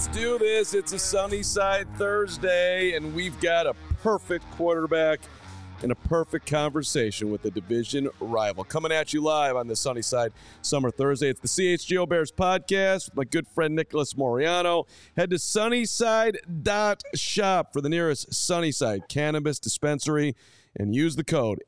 Let's do this. It's a Sunnyside Thursday, and we've got a perfect quarterback and a perfect conversation with a division rival. Coming at you live on the Sunnyside Summer Thursday. It's the CHGO Bears podcast with my good friend Nicholas Moriano. Head to sunnyside.shop for the nearest Sunnyside cannabis dispensary and use the code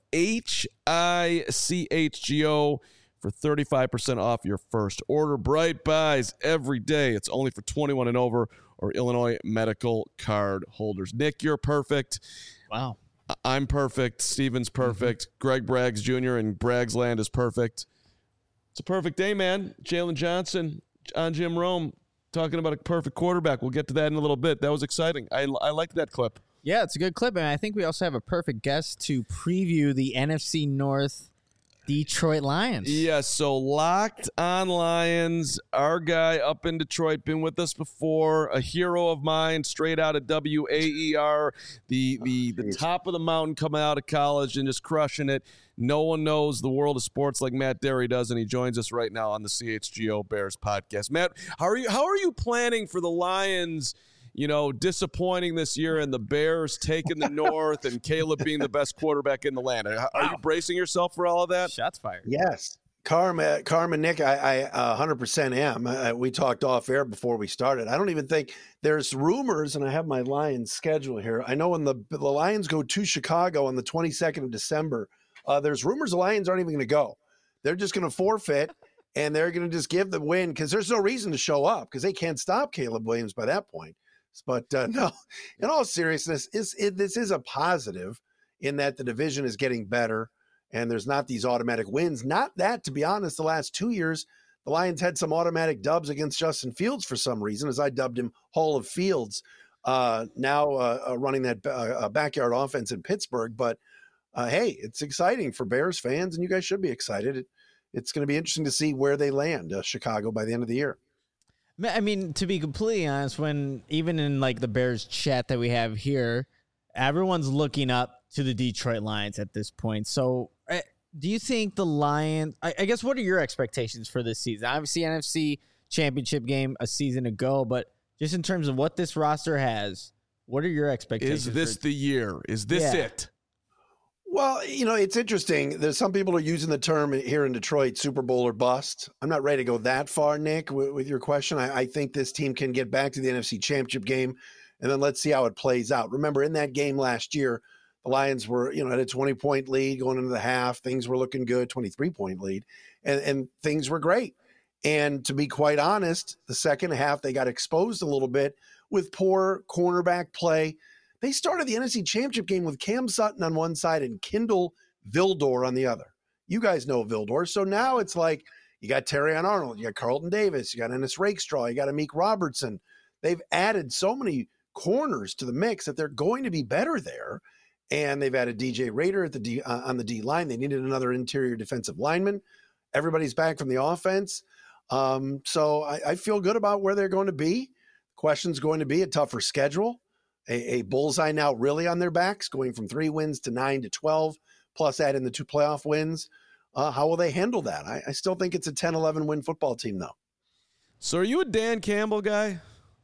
HICHGO for 35% off your first order. Bright buys every day. It's only for 21 and over or Illinois medical card holders. Nick, you're perfect. Wow. I'm perfect. Steven's perfect. Greg Braggs Jr. and Braggs Land is perfect. It's a perfect day, man. Jalen Johnson on Jim Rome talking about a perfect quarterback. We'll get to that in a little bit. That was exciting. I liked that clip. Yeah, it's a good clip, and I think we also have a perfect guest to preview the NFC North Detroit Lions. Yeah, so Locked on Lions, our guy up in Detroit, been with us before, a hero of mine, straight out of WAER, the top of the mountain coming out of college and just crushing it. No one knows the world of sports like Matt Derry does, and he joins us right now on the CHGO Bears podcast. Matt, how are you planning for the Lions? You know, disappointing this year and the Bears taking the North and Caleb being the best quarterback in the land. Are you bracing yourself for all of that? Shots fired. Yes. Carmen, Nick, I 100% am. We talked off air before we started. I don't even think there's rumors, and I have my Lions schedule here. I know when the Lions go to Chicago on the 22nd of December, there's rumors the Lions aren't even going to go. They're just going to forfeit, and they're going to just give the win because there's no reason to show up because they can't stop Caleb Williams by that point. But no, in all seriousness, this is a positive in that the division is getting better and there's not these automatic wins. Not that, to be honest, the last 2 years, the Lions had some automatic dubs against Justin Fields for some reason, as I dubbed him Hall of Fields, now running that backyard offense in Pittsburgh. But, hey, it's exciting for Bears fans, and you guys should be excited. It's going to be interesting to see where they land, Chicago, by the end of the year. I mean, to be completely honest, when even in like the Bears chat that we have here, everyone's looking up to the Detroit Lions at this point. So do you think the Lions, I guess, what are your expectations for this season? Obviously, NFC Championship game a season ago, but just in terms of what this roster has, what are your expectations? Is this the year? Is this it? Well, you know, it's interesting. There's some people are using the term here in Detroit, Super Bowl or bust. I'm not ready to go that far, Nick, with your question. I think this team can get back to the NFC Championship game, and then let's see how it plays out. Remember, in that game last year, the Lions were, at a 20-point lead going into the half. Things were looking good, 23-point lead, and things were great. And to be quite honest, the second half, they got exposed a little bit with poor cornerback play. They started the NFC Championship game with Cam Sutton on one side and Kindle Vildor on the other. You guys know Vildor. So now it's like you got Terrion Arnold, you got Carlton Davis, you got Ennis Rakestraw, you got Amik Robertson. They've added so many corners to the mix that they're going to be better there. And they've added DJ Rader at on the D line. They needed another interior defensive lineman. Everybody's back from the offense. So I feel good about where they're going to be. Question's going to be a tougher schedule. A bullseye now really on their backs, going from 3 wins to 9 to 12, plus add in the 2 playoff wins. How will they handle that? I still think it's a 10-11 win football team, though. So are you a Dan Campbell guy?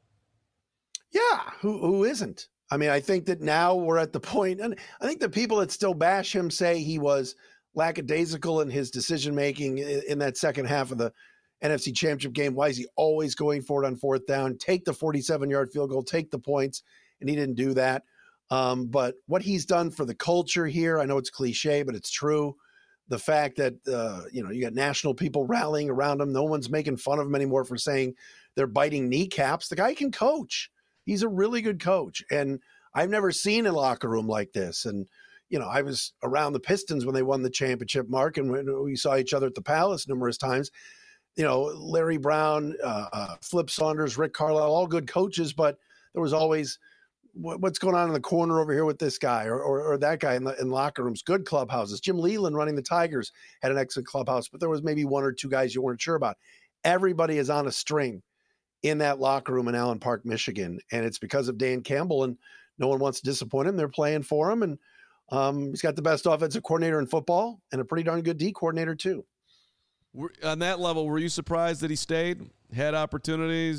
Yeah, who isn't? I mean, I think that now we're at the point, and I think the people that still bash him say he was lackadaisical in his decision-making in that second half of the NFC Championship game. Why is he always going for it on 4th down? Take the 47-yard field goal, take the points. And he didn't do that. But what he's done for the culture here, I know it's cliche, but it's true. The fact that, you got national people rallying around him. No one's making fun of him anymore for saying they're biting kneecaps. The guy can coach. He's a really good coach. And I've never seen a locker room like this. And, I was around the Pistons when they won the championship, Mark, and we saw each other at the Palace numerous times. Larry Brown, Flip Saunders, Rick Carlisle, all good coaches, but there was always – what's going on in the corner over here with this guy or that guy in locker rooms, good clubhouses. Jim Leland running the Tigers had an excellent clubhouse, but there was maybe 1 or 2 guys you weren't sure about. Everybody is on a string in that locker room in Allen Park, Michigan. And it's because of Dan Campbell, and no one wants to disappoint him. They're playing for him. And he's got the best offensive coordinator in football and a pretty darn good D coordinator too. On that level, were you surprised that he stayed? Had opportunities?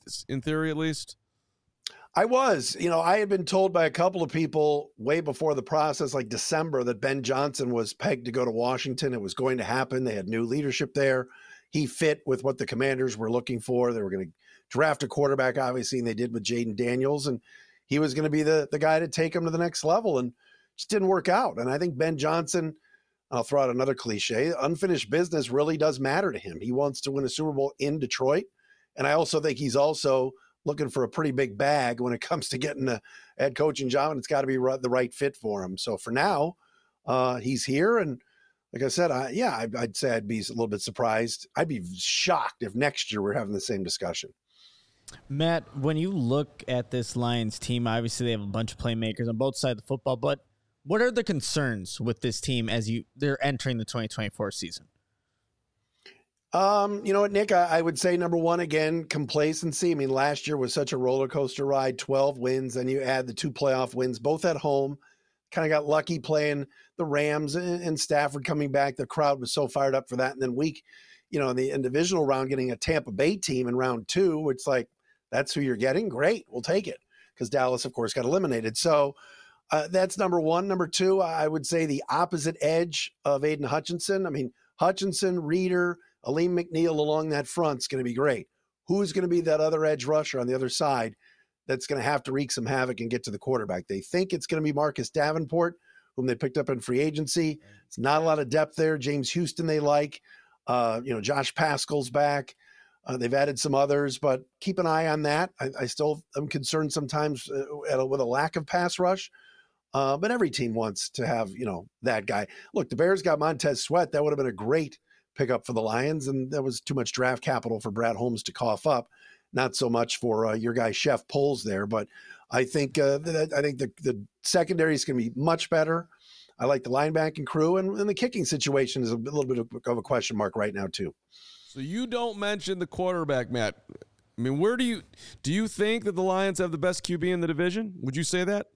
in theory at least? I was. I had been told by a couple of people way before the process, like December, that Ben Johnson was pegged to go to Washington. It was going to happen. They had new leadership there. He fit with what the Commanders were looking for. They were going to draft a quarterback, obviously, and they did with Jaden Daniels. And he was going to be the guy to take him to the next level, and just didn't work out. And I think Ben Johnson, I'll throw out another cliche, unfinished business really does matter to him. He wants to win a Super Bowl in Detroit. And I also think he's also looking for a pretty big bag when it comes to getting a head coaching job, and it's got to be the right fit for him. So for now, he's here. And like I said, I'd say I'd be a little bit surprised. I'd be shocked if next year we're having the same discussion. Matt, when you look at this Lions team, obviously they have a bunch of playmakers on both sides of the football, but what are the concerns with this team as they're entering the 2024 season? You know what, Nick, I would say number one, again, complacency. I mean, last year was such a roller coaster ride, 12 wins. Then you add the 2 playoff wins, both at home. Kind of got lucky playing the Rams and Stafford coming back. The crowd was so fired up for that. And then in the divisional round, getting a Tampa Bay team in round 2, it's like, that's who you're getting. Great. We'll take it. Because Dallas, of course, got eliminated. So that's number one. Number two, I would say the opposite edge of Aiden Hutchinson. I mean, Hutchinson, Reeder, Aleem McNeil along that front is going to be great. Who's going to be that other edge rusher on the other side that's going to have to wreak some havoc and get to the quarterback? They think it's going to be Marcus Davenport, whom they picked up in free agency. It's not a lot of depth there. James Houston they like. Josh Pascal's back. They've added some others, but keep an eye on that. I still am concerned sometimes with a lack of pass rush. But every team wants to have, that guy. Look, the Bears got Montez Sweat. That would have been a great pickup for the Lions, and that was too much draft capital for Brad Holmes to cough up. Not so much for your guy Chef Poles there, but I think the secondary is going to be much better. I like the linebacking crew, and the kicking situation is a little bit of a question mark right now too. So you don't mention the quarterback, Matt. I mean, do you think that the Lions have the best QB in the division? Would you say that?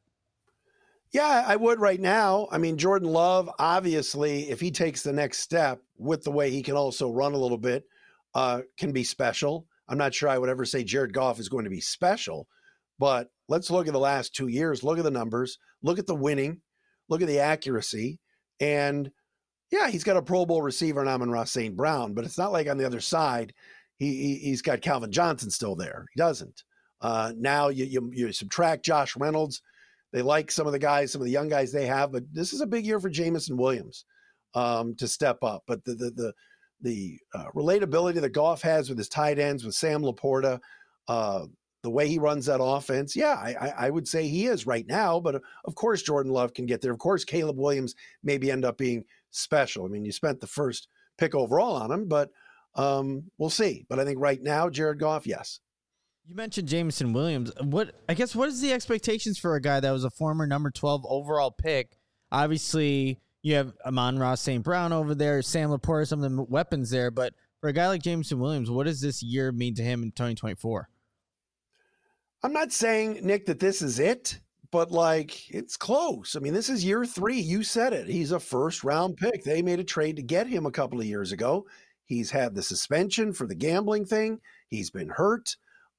Yeah, I would right now. I mean, Jordan Love, obviously, if he takes the next step with the way he can also run a little bit, can be special. I'm not sure I would ever say Jared Goff is going to be special, but let's look at the last 2 years. Look at the numbers. Look at the winning. Look at the accuracy. And, yeah, he's got a Pro Bowl receiver in Amon-Ra St. Brown, but it's not like on the other side he's got Calvin Johnson still there. He doesn't. Now you subtract Josh Reynolds. They like some of the young guys they have, but this is a big year for Jameson Williams to step up. But the relatability that Goff has with his tight ends, with Sam Laporta, the way he runs that offense, I would say he is right now. But of course, Jordan Love can get there. Of course, Caleb Williams maybe end up being special. I mean, you spent the first pick overall on him, but we'll see. But I think right now, Jared Goff, yes. You mentioned Jameson Williams. What is the expectations for a guy that was a former number 12 overall pick? Obviously, you have Amon-Ra St. Brown over there, Sam Laporta, some of the weapons there. But for a guy like Jameson Williams, what does this year mean to him in 2024? I'm not saying, Nick, that this is it, but it's close. I mean, this is year 3. You said it. He's a first-round pick. They made a trade to get him a couple of years ago. He's had the suspension for the gambling thing. He's been hurt.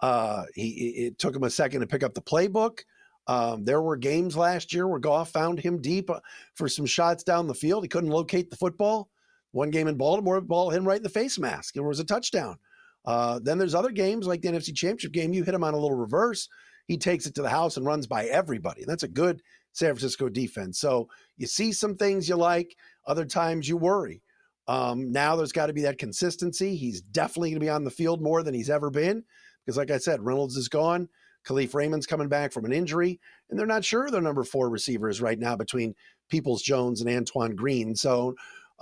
It took him a second to pick up the playbook. There were games last year where Goff found him deep for some shots down the field. He couldn't locate the football. One game in Baltimore, the ball hit him right in the face mask. It was a touchdown. Then there's other games like the NFC Championship game. You hit him on a little reverse. He takes it to the house and runs by everybody. And that's a good San Francisco defense. So you see some things you like. Other times you worry. Now there's got to be that consistency. He's definitely going to be on the field more than he's ever been. Because like I said, Reynolds is gone. Khalif Raymond's coming back from an injury. And they're not sure their number 4 receivers right now between Peoples-Jones and Antoine Green. So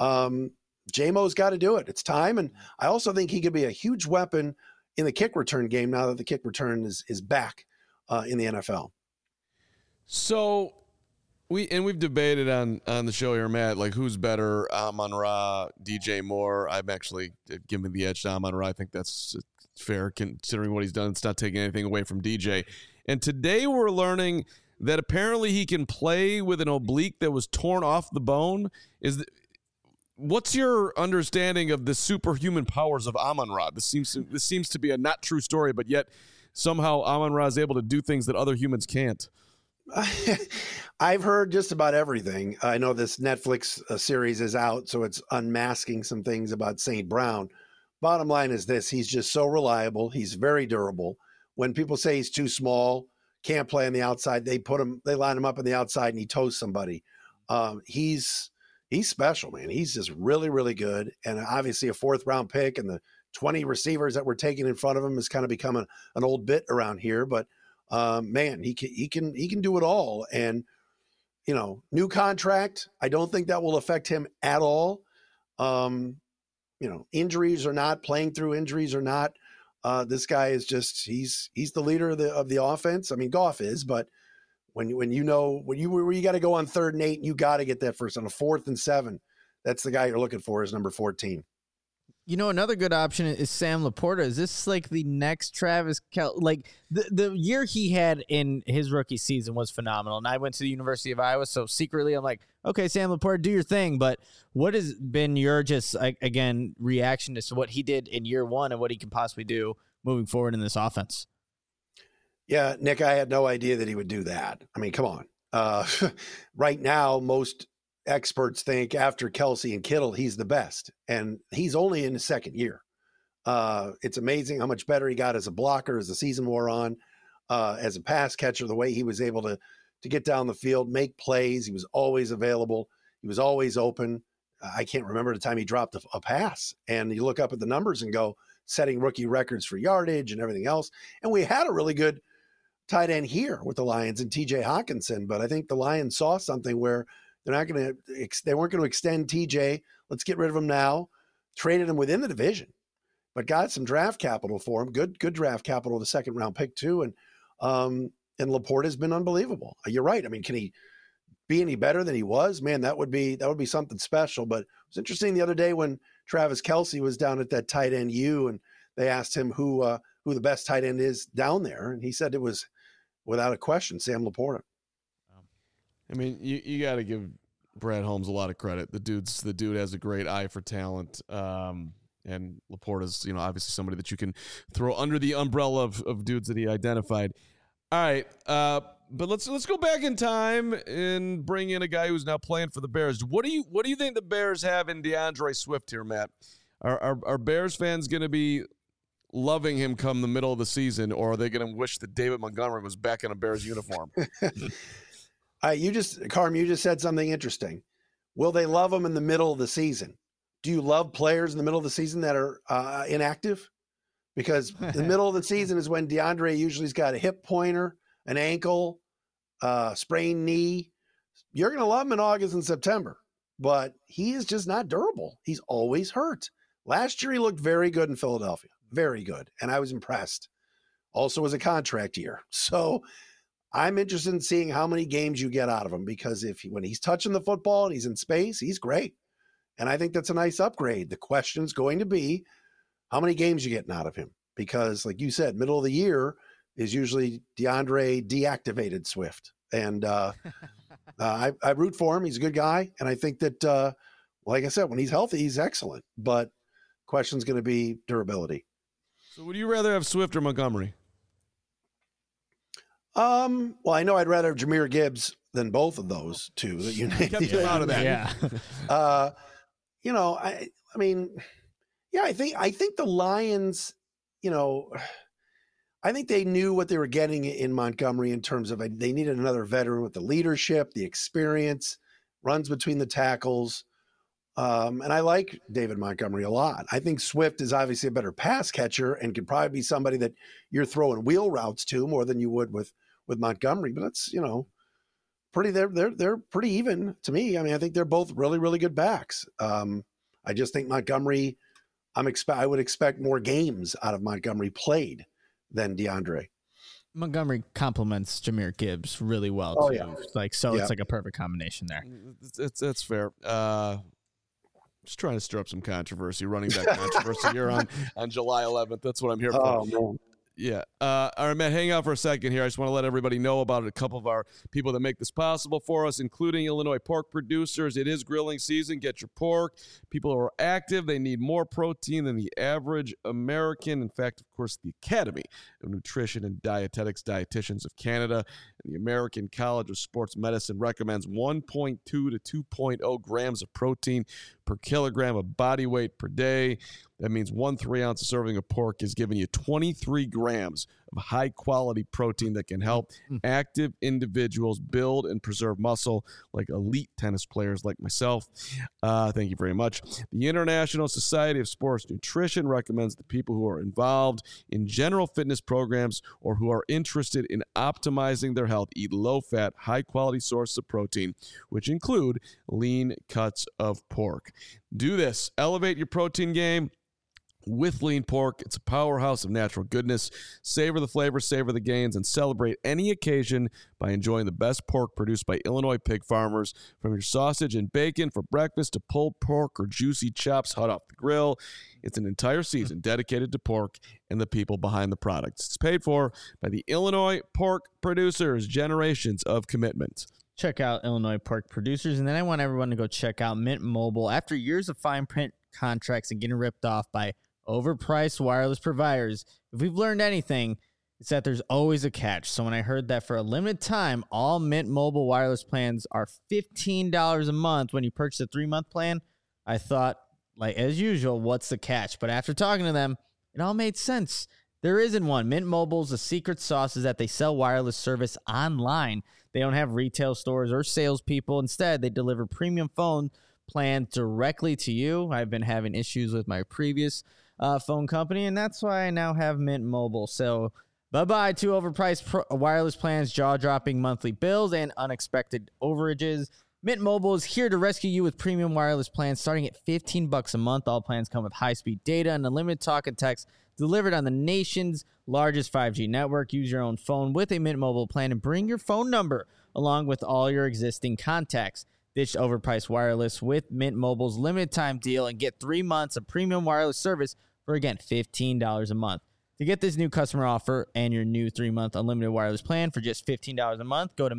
J-Mo's got to do it. It's time. And I also think he could be a huge weapon in the kick return game now that the kick return is back in the NFL. So we've debated on the show here, Matt, who's better, Amon-Ra, DJ Moore. I'm actually giving the edge to Amon-Ra. I think that's fair considering what he's done. It's not taking anything away from DJ. And today we're learning that apparently he can play with an oblique that was torn off the bone. What's your understanding of the superhuman powers of Amon-Ra? This seems to be a not true story, but yet somehow Amon-Ra is able to do things that other humans can't. I've heard just about everything. I know this Netflix series is out, so it's unmasking some things about St. Brown. Bottom line is this: he's just so reliable. He's very durable. When people say he's too small, can't play on the outside, they line him up on the outside, and he toasts somebody. He's special, man. He's just really, really good, and obviously a 4th-round pick, and the 20 receivers that we're taking in front of him has kind of become an old bit around here. But man, he can do it all. And new contract, I don't think that will affect him at all. Injuries or not, playing through injuries or not, this guy is just he's the leader of the offense. I mean, Goff is, but when you got to go on 3rd and 8, and you got to get that first on a 4th and 7. That's the guy you're looking for is number 14. Another good option is Sam Laporta. Is this like the next Travis Kelce? Like the year he had in his rookie season was phenomenal. And I went to the University of Iowa, so secretly I'm like, okay, Sam Laporta, do your thing. But what has been your reaction to what he did in year 1 and what he can possibly do moving forward in this offense? Yeah, Nick, I had no idea that he would do that. I mean, come on. Right now, most experts think after Kelce and Kittle, he's the best, and he's only in his 2nd year. It's amazing how much better he got as a blocker as the season wore on, as a pass catcher, the way he was able to get down the field, make plays. He was always available. He was always open. I can't remember the time he dropped a pass, and you look up at the numbers and go, setting rookie records for yardage and everything else. And we had a really good tight end here with the Lions and TJ Hawkinson, but I think the Lions saw something where they weren't going to extend TJ. Let's get rid of him now. Traded him within the division, but got some draft capital for him. Good draft capital, the 2nd-round pick too. And Laporta has been unbelievable. You're right. I mean, can he be any better than he was? Man, that would be something special. But it was interesting the other day when Travis Kelce was down at that tight end U, and they asked him who the best tight end is down there, and he said it was without a question Sam Laporta. I mean, you got to give Brad Holmes a lot of credit. The dude has a great eye for talent, and Laporta's obviously somebody that you can throw under the umbrella of dudes that he identified. All right, but let's go back in time and bring in a guy who's now playing for the Bears. What do you think the Bears have in DeAndre Swift here, Matt? Are Bears fans going to be loving him come the middle of the season, or are they going to wish that David Montgomery was back in a Bears uniform? You just said something interesting. Will they love him in the middle of the season? Do you love players in the middle of the season that are inactive? Because the middle of the season is when DeAndre usually's got a hip pointer, an ankle, sprained knee. You're going to love him in August and September, but he is just not durable. He's always hurt. Last year, he looked very good in Philadelphia. Very good. And I was impressed. Also was a contract year. So I'm interested in seeing how many games you get out of him, because when he's touching the football and he's in space, he's great. And I think that's a nice upgrade. The question's going to be how many games you getting out of him, because like you said, middle of the year is usually DeAndre deactivated Swift. And I root for him. He's a good guy. And I think that, like I said, when he's healthy, he's excellent. But question's going to be durability. So would you rather have Swift or Montgomery? Well, I know I'd rather have Jahmyr Gibbs than both of those two. That you kept him out of that. Yeah. I think the Lions, I think they knew what they were getting in Montgomery in terms of they needed another veteran with the leadership, the experience, runs between the tackles. And I like David Montgomery a lot. I think Swift is obviously a better pass catcher and could probably be somebody that you're throwing wheel routes to more than you would with Montgomery. But that's, they're pretty even to me. I mean, I think they're both really, really good backs. I just think Montgomery, I would expect more games out of Montgomery played than DeAndre. Montgomery complements Jahmyr Gibbs really well too. Yeah. It's like a perfect combination there. That's fair. Just trying to stir up some controversy, running back controversy here on July 11th. That's what I'm here for. Man. Yeah. All right, Matt, hang out for a second here. I just want to let everybody know about a couple of our people that make this possible for us, including Illinois pork producers. It is grilling season. Get your pork. People who are active, they need more protein than the average American. In fact, of course, the Academy of Nutrition and Dietetics Dietitians of Canada and the American College of Sports Medicine recommends 1.2 to 2.0 grams of protein per kilogram of body weight per day. That means 1 3-ounce serving of pork is giving you 23 grams of high-quality protein that can help active individuals build and preserve muscle like elite tennis players like myself. Thank you very much. The International Society of Sports Nutrition recommends that people who are involved in general fitness programs or who are interested in optimizing their health eat low-fat, high-quality sources of protein, which include lean cuts of pork. Do this. Elevate your protein game with lean pork. It's a powerhouse of natural goodness. Savor the flavor, savor the gains, and celebrate any occasion by enjoying the best pork produced by Illinois pig farmers. From your sausage and bacon for breakfast to pulled pork or juicy chops hot off the grill, it's an entire season dedicated to pork and the people behind the products. It's paid for by the Illinois pork producers. Generations of commitment. Check out Illinois pork producers, and then I want everyone to go check out Mint Mobile. After years of fine print contracts and getting ripped off by overpriced wireless providers, if we've learned anything, it's that there's always a catch. So when I heard that for a limited time, all Mint Mobile wireless plans are $15 a month when you purchase a 3-month plan, I thought, like as usual, what's the catch? But after talking to them, it all made sense. There isn't one. Mint Mobile's the secret sauce is that they sell wireless service online. They don't have retail stores or salespeople. Instead, they deliver premium phone plans directly to you. I've been having issues with my previous phone company, and that's why I now have Mint Mobile. So bye-bye to overpriced wireless plans, jaw-dropping monthly bills, and unexpected overages. Mint Mobile is here to rescue you with premium wireless plans starting at $15 a month. All plans come with high-speed data and unlimited talk and text delivered on the nation's largest 5G network. Use your own phone with a Mint Mobile plan and bring your phone number along with all your existing contacts. Ditch overpriced wireless with Mint Mobile's limited time deal and get 3 months of premium wireless service for, again, $15 a month. To get this new customer offer and your new 3-month unlimited wireless plan for just $15 a month, go to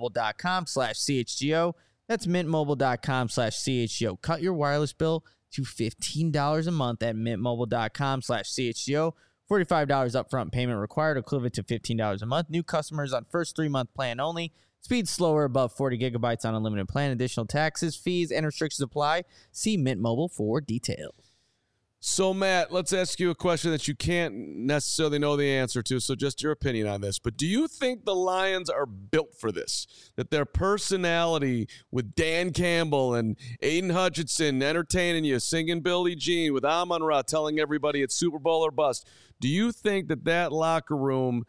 mintmobile.com/CHGO. That's mintmobile.com/CHGO. Cut your wireless bill to $15 a month at mintmobile.com/CHGO. $45 upfront payment required, equivalent to $15 a month. New customers on first 3-month plan only. Speed slower above 40 gigabytes on unlimited plan. Additional taxes, fees, and restrictions apply. See Mint Mobile for details. So, Matt, let's ask you a question that you can't necessarily know the answer to, so just your opinion on this. But do you think the Lions are built for this? That their personality with Dan Campbell and Aiden Hutchinson entertaining you, singing Billie Jean, with Amon-Ra telling everybody it's Super Bowl or bust, do you think that that locker room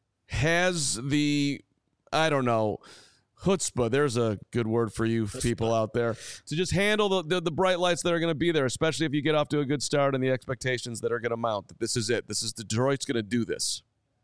has the, I don't know, chutzpah, there's a good word for you people out there, to just handle the bright lights that are going to be there, especially if you get off to a good start and the expectations that are going to mount, that this is it. This is Detroit's going to do this.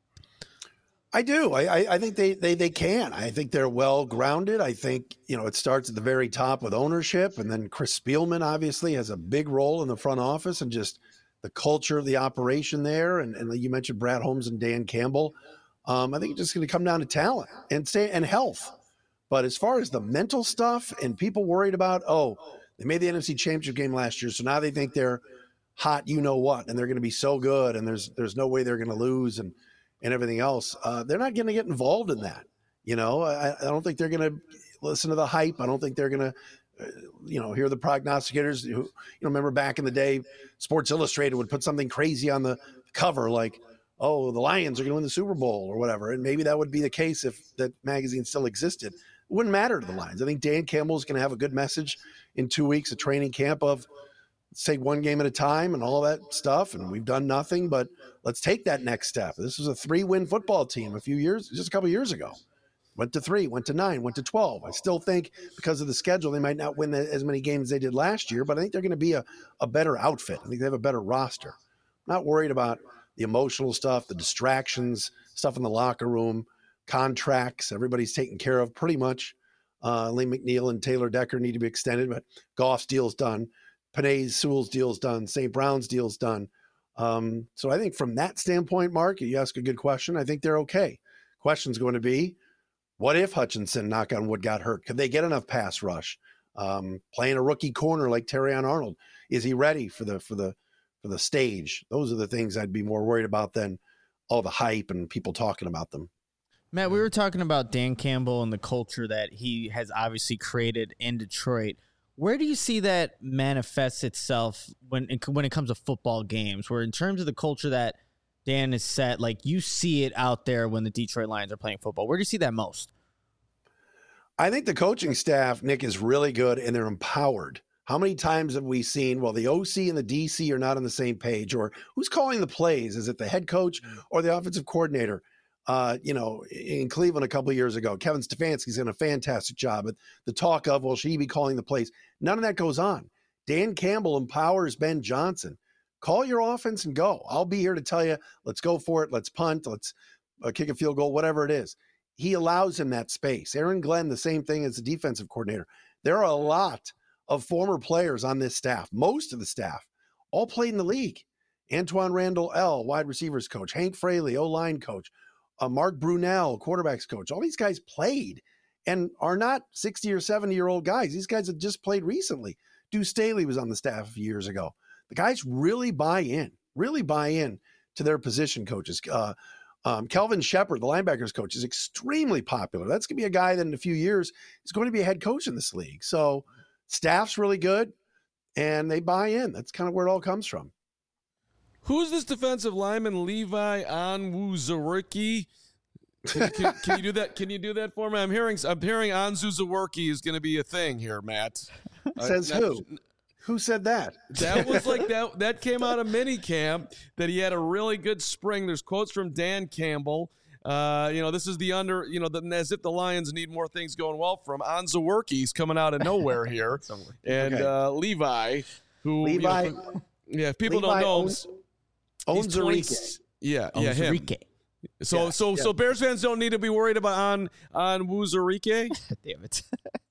I do. I think they can. I think they're well grounded. I think, it starts at the very top with ownership, and then Chris Spielman obviously has a big role in the front office and just the culture of the operation there. And you mentioned Brad Holmes and Dan Campbell. I think it's just going to come down to talent and health. But as far as the mental stuff and people worried about, they made the NFC Championship game last year, so now they think they're hot, and they're going to be so good, and there's no way they're going to lose, and everything else. They're not going to get involved in that. I don't think they're going to listen to the hype. I don't think they're going to, hear the prognosticators. Who, remember back in the day, Sports Illustrated would put something crazy on the cover like, the Lions are going to win the Super Bowl or whatever. And maybe that would be the case if that magazine still existed. It wouldn't matter to the Lions. I think Dan Campbell is going to have a good message in 2 weeks of training camp of let's take one game at a time and all that stuff. And we've done nothing, but let's take that next step. This was a 3-win football team just a couple of years ago. Went to 3, went to 9, went to 12. I still think because of the schedule, they might not win as many games as they did last year, but I think they're going to be a better outfit. I think they have a better roster. I'm not worried about the emotional stuff, the distractions, stuff in the locker room, contracts. Everybody's taken care of pretty much. Lee McNeil and Taylor Decker need to be extended, but Goff's deal's done. Panay Sewell's deal's done. St. Brown's deal's done. So I think from that standpoint, Mark, you ask a good question. I think they're okay. Question's going to be, what if Hutchinson, knock on wood, got hurt? Could they get enough pass rush? Playing a rookie corner like Terrion Arnold, is he ready for the stage? Those are the things I'd be more worried about than all the hype and people talking about them. Matt, we were talking about Dan Campbell and the culture that he has obviously created in Detroit. Where do you see that manifests itself when it comes to football games, where in terms of the culture that Dan has set, like you see it out there when the Detroit Lions are playing football? Where do you see that most? I think the coaching staff, Nick, is really good and they're empowered. How many times have we seen, well, the OC and the DC are not on the same page, or who's calling the plays? Is it the head coach or the offensive coordinator? In Cleveland a couple of years ago, Kevin Stefanski's done a fantastic job. But the talk of, well, should he be calling the plays? None of that goes on. Dan Campbell empowers Ben Johnson. Call your offense and go. I'll be here to tell you, let's go for it. Let's punt. Let's kick a field goal, whatever it is. He allows him that space. Aaron Glenn, the same thing as the defensive coordinator. There are a lot of former players on this staff. Most of the staff all played in the league. Antoine Randall L., wide receivers coach. Hank Fraley, O-line coach. Mark Brunell, quarterbacks coach. All these guys played and are not 60 or 70-year-old guys. These guys have just played recently. Deuce Staley was on the staff a few years ago. The guys really buy in to their position coaches. Kelvin Shepard, the linebackers coach, is extremely popular. That's going to be a guy that in a few years is going to be a head coach in this league. So staff's really good, and they buy in. That's kind of where it all comes from. Who's this defensive lineman, Levi Onwuzurike? Can you do that? Can you do that for me? I'm hearing Onwuzurike is going to be a thing here, Matt. Says who? Who said that? That was like that. That came out of minicamp that he had a really good spring. There's quotes from Dan Campbell. This is the under. As if the Lions need more things going well from Onwuzurike's coming out of nowhere here, and Levi, who if people Levi don't know. Onwuzurike. Him. So Bears fans don't need to be worried about Onwuzurike. Damn it.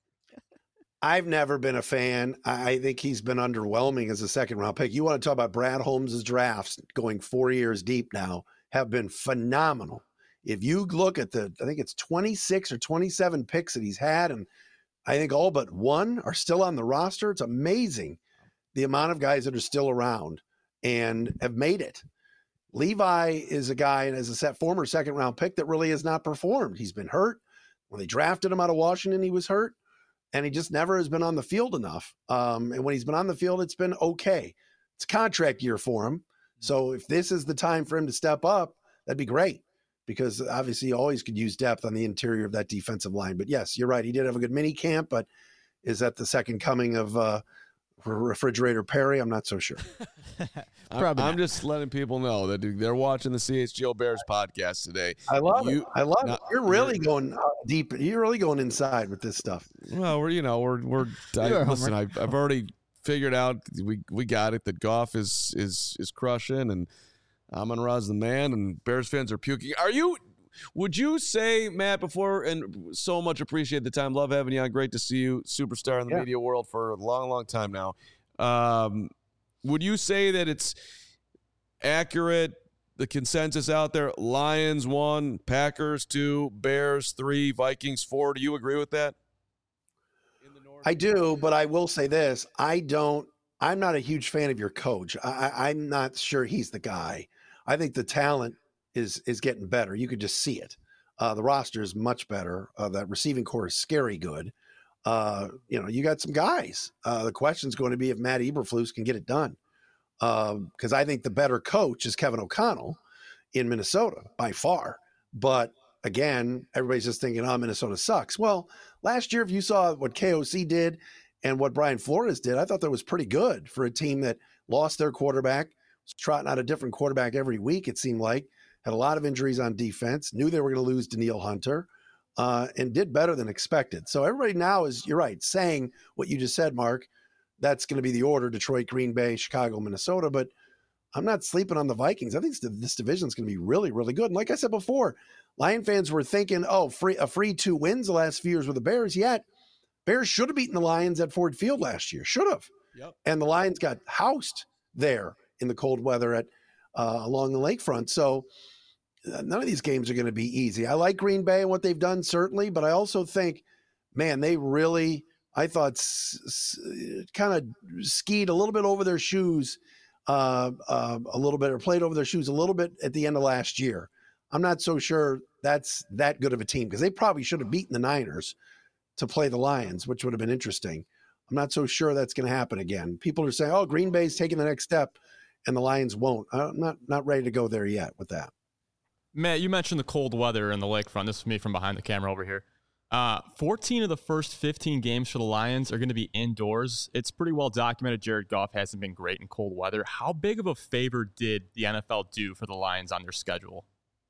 I've never been a fan. I think he's been underwhelming as a second-round pick. You want to talk about Brad Holmes' drafts going 4 years deep now have been phenomenal. If you look at I think it's 26 or 27 picks that he's had, and I think all but one are still on the roster. It's amazing the amount of guys that are still around and have made it. Levi is a guy, and as a former second-round pick, that really has not performed. He's been hurt. When they drafted him out of Washington, he was hurt. And he just never has been on the field enough. And when he's been on the field, it's been okay. It's a contract year for him. So if this is the time for him to step up, that'd be great, because obviously he always could use depth on the interior of that defensive line. But yes, you're right. He did have a good mini camp, but is that the second coming of Refrigerator Perry? I'm not so sure. I'm just letting people know that they're watching the CHGO Bears podcast today. I love it. You're really going deep. You're really going inside with this stuff. Well, listen. I've already figured out we got it, that Goff is crushing, and Amon-Ra's the man, and Bears fans are puking. Would you say, Matt, before, and so much appreciate the time, love having you on, great to see you, superstar in the media world for a long, long time now. Would you say that it's accurate, the consensus out there, Lions 1, Packers 2, Bears 3, Vikings 4? Do you agree with that? I do, but I will say this. I'm not a huge fan of your coach. I'm not sure he's the guy. I think the talent is getting better. You could just see it. The roster is much better. That receiving core is scary good. You got some guys. The question is going to be if Matt Eberflus can get it done. Because I think the better coach is Kevin O'Connell in Minnesota by far. But again, everybody's just thinking, Minnesota sucks. Well, last year, if you saw what KOC did and what Brian Flores did, I thought that was pretty good for a team that lost their quarterback, was trotting out a different quarterback every week, it seemed like, had a lot of injuries on defense, knew they were going to lose Danielle Hunter, and did better than expected. So everybody now is, you're right, saying what you just said, Mark. That's going to be the order: Detroit, Green Bay, Chicago, Minnesota. But I'm not sleeping on the Vikings. I think this division is going to be really, really good. And like I said before, Lion fans were thinking, a free 2 wins the last few years with the Bears. Yet Bears should have beaten the Lions at Ford Field last year. Should have. Yep. And the Lions got housed there in the cold weather at along the lakefront. So none of these games are going to be easy. I like Green Bay and what they've done, certainly, but I also think, man, they really, I thought, kind of skied a little bit over their shoes a little bit, or played over their shoes a little bit at the end of last year. I'm not so sure that's that good of a team, because they probably should have beaten the Niners to play the Lions, which would have been interesting. I'm not so sure that's going to happen again. People are saying, oh, Green Bay's taking the next step and the Lions won't. I'm not ready to go there yet with that. Matt, you mentioned the cold weather and the lakefront. This is me from behind the camera over here. 14 of the first 15 games for the Lions are going to be indoors. It's pretty well documented Jared Goff hasn't been great in cold weather. How big of a favor did the NFL do for the Lions on their schedule?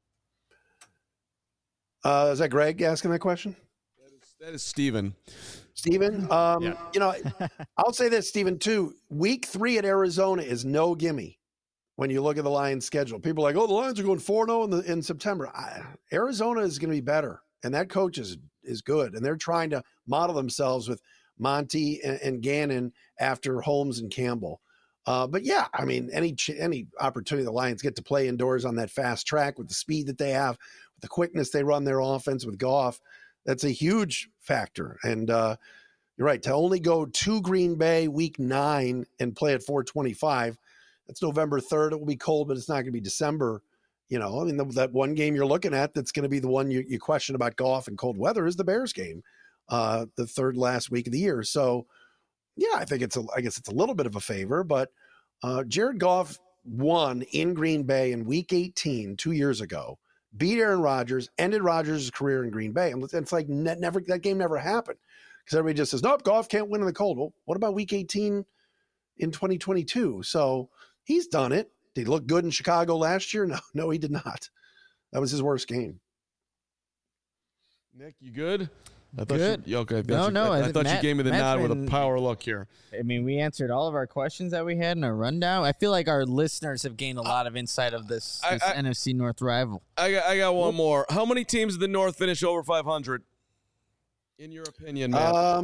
Is that Greg asking that question? That is Steven. Steven, you know, I'll say this, Steven, too. Week 3 at Arizona is no gimme when you look at the Lions' schedule. People are like, oh, the Lions are going 4-0 in September. Arizona is going to be better, and that coach is good, and they're trying to model themselves with Monty and Gannon after Holmes and Campbell. But, yeah, I mean, any opportunity the Lions get to play indoors on that fast track with the speed that they have, with the quickness they run their offense with Goff, that's a huge factor. And you're right, to only go to Green Bay week 9 and play at 425, that's November 3rd. It will be cold, but it's not going to be December. You know, I mean, that one game you're looking at that's going to be the one you question about Goff and cold weather is the Bears game, the third last week of the year. So, yeah, I guess it's a little bit of a favor, but Jared Goff won in Green Bay in week 18 2 years ago, beat Aaron Rodgers, ended Rodgers' career in Green Bay. And it's like that game never happened, because everybody just says, nope, Goff can't win in the cold. Well, what about week 18 in 2022? So he's done it. Did he look good in Chicago last year? No, he did not. That was his worst game. Nick, you good? I thought Good. Okay. I thought you gave me the Matt's nod with a power look here. I mean, we answered all of our questions that we had in our rundown. I feel like our listeners have gained a lot of insight of this NFC North rival. I got one more. How many teams in the North finish over 500? In your opinion, Matt?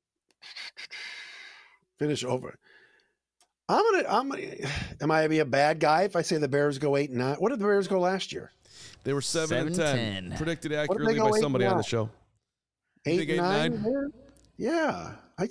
Finish over. Am I be a bad guy if I say the Bears go 8-9? What did the Bears go last year? They were 7-10. Predicted accurately by somebody on the show. 8-9? Yeah.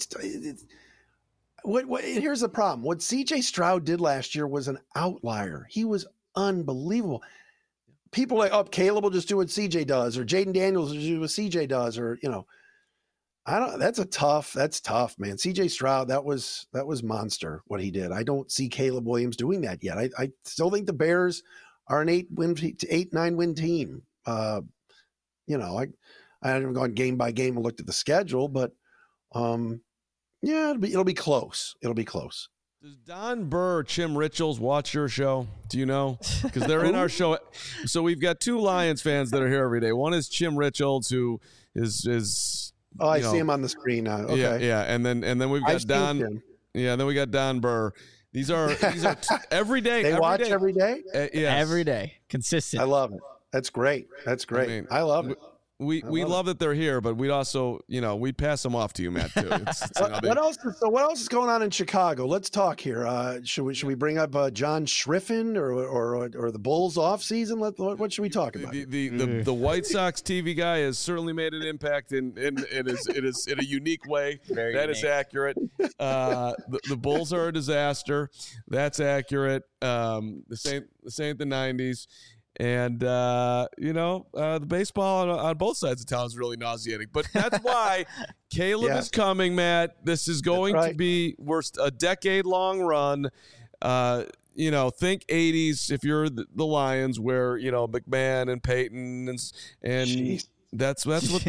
Here's the problem. What C.J. Stroud did last year was an outlier. He was unbelievable. People are like, oh, Caleb will just do what C.J. does, or Jaden Daniels will do what C.J. does, or, you know. That's tough, man. C.J. Stroud, that was monster what he did. I don't see Caleb Williams doing that yet. I still think the Bears are an 8-9 win team. You know, I haven't gone game by game and looked at the schedule, but yeah, it'll be close. It'll be close. Does Don Burr or Chim Richards watch your show? Do you know? Because they're in our show. So we've got 2 Lions fans that are here every day. One is Chim Richards, who is oh, I see him on the screen now. Okay. Yeah, and then we've got Don. Yeah, and then we got Don Burr. These are every day. They watch every day. Yes. Every day, consistent. I love it. That's great. I mean, I love it. We love that they're here, but we'd also, we'd pass them off to you, Matt, too. What else is going on in Chicago? Let's talk here. Should we bring up John Schriffen or the Bulls off season? What should we talk about? The White Sox TV guy has certainly made an impact in a unique way. That is accurate. The Bulls are a disaster. That's accurate. This ain't the 90s. And, the baseball on both sides of town is really nauseating. But that's why Caleb is coming, Matt. This is going to be a decade-long run. Think 80s if you're the Lions, where, McMahon and Peyton and that's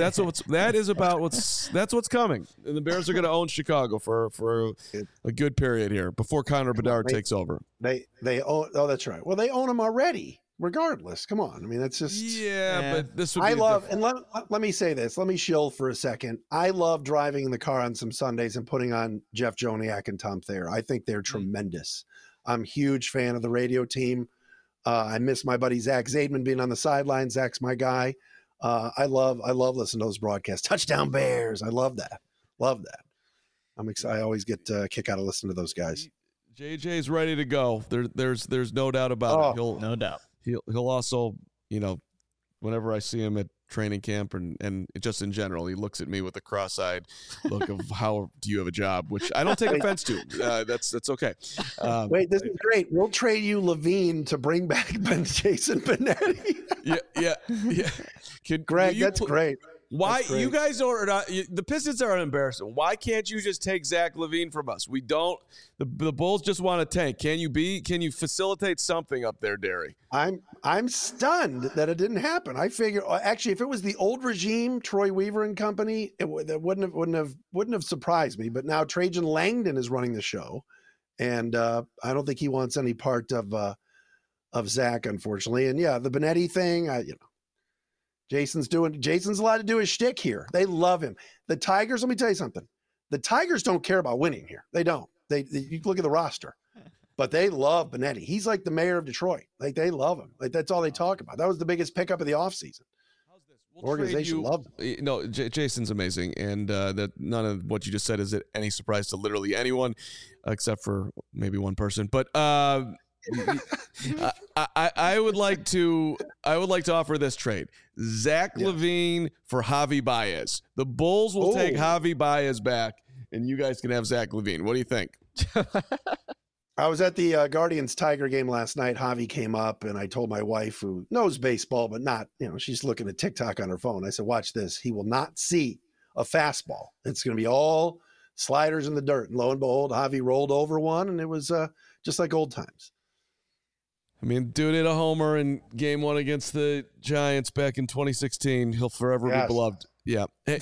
what's coming. And the Bears are going to own Chicago for a good period here before Connor Bedard takes over. They own. Oh, that's right. Well, they own them already. Regardless, come on. I mean, that's just but this would be let me say this. Let me shill for a second. I love driving in the car on some Sundays and putting on Jeff Joniak and Tom Thayer. I think they're tremendous. I'm a huge fan of the radio team. I miss my buddy Zach Zaidman being on the sidelines. Zach's my guy. I love listening to those broadcasts. Touchdown Bears. I love that. I'm excited. I always get a kick out of listening to those guys. JJ's ready to go. There's no doubt about it. No doubt. He'll also, whenever I see him at training camp and just in general, he looks at me with a cross-eyed look of how do you have a job, which I don't take offense to. That's okay. Wait, this is great. We'll trade you Levine to bring back Jason Benetti. yeah. Greg, that's great. Why you guys are not? The Pistons are embarrassing. Why can't you just take Zach LaVine from us? We don't. The Bulls just want to tank. Can you facilitate something up there, Derry? I'm stunned that it didn't happen. I figure actually, if it was the old regime, Troy Weaver and company, that wouldn't have surprised me. But now Trajan Langdon is running the show, and I don't think he wants any part of Zach, unfortunately. And yeah, the Benetti thing, Jason's allowed to do his shtick here. They love him. The Tigers, let me tell you something. The Tigers don't care about winning here. They don't. You look at the roster, but they love Benetti. He's like the mayor of Detroit. Like they love him. Like that's all they talk about. That was the biggest pickup of the offseason. Organization loved him. No, Jason's amazing, and that none of what you just said is any surprise to literally anyone, except for maybe one person. But I would like to offer this trade: Zach LaVine for Javi Baez. The Bulls will take Javi Baez back, and you guys can have Zach LaVine. What do you think? I was at the Guardians Tiger game last night. Javi came up, and I told my wife, who knows baseball, but not, she's looking at TikTok on her phone. I said, watch this. He will not see a fastball. It's going to be all sliders in the dirt. And lo and behold, Javi rolled over one, and it was just like old times. I mean, dude hit a homer in game 1 against the Giants back in 2016. He'll forever be beloved. Yeah. Hey,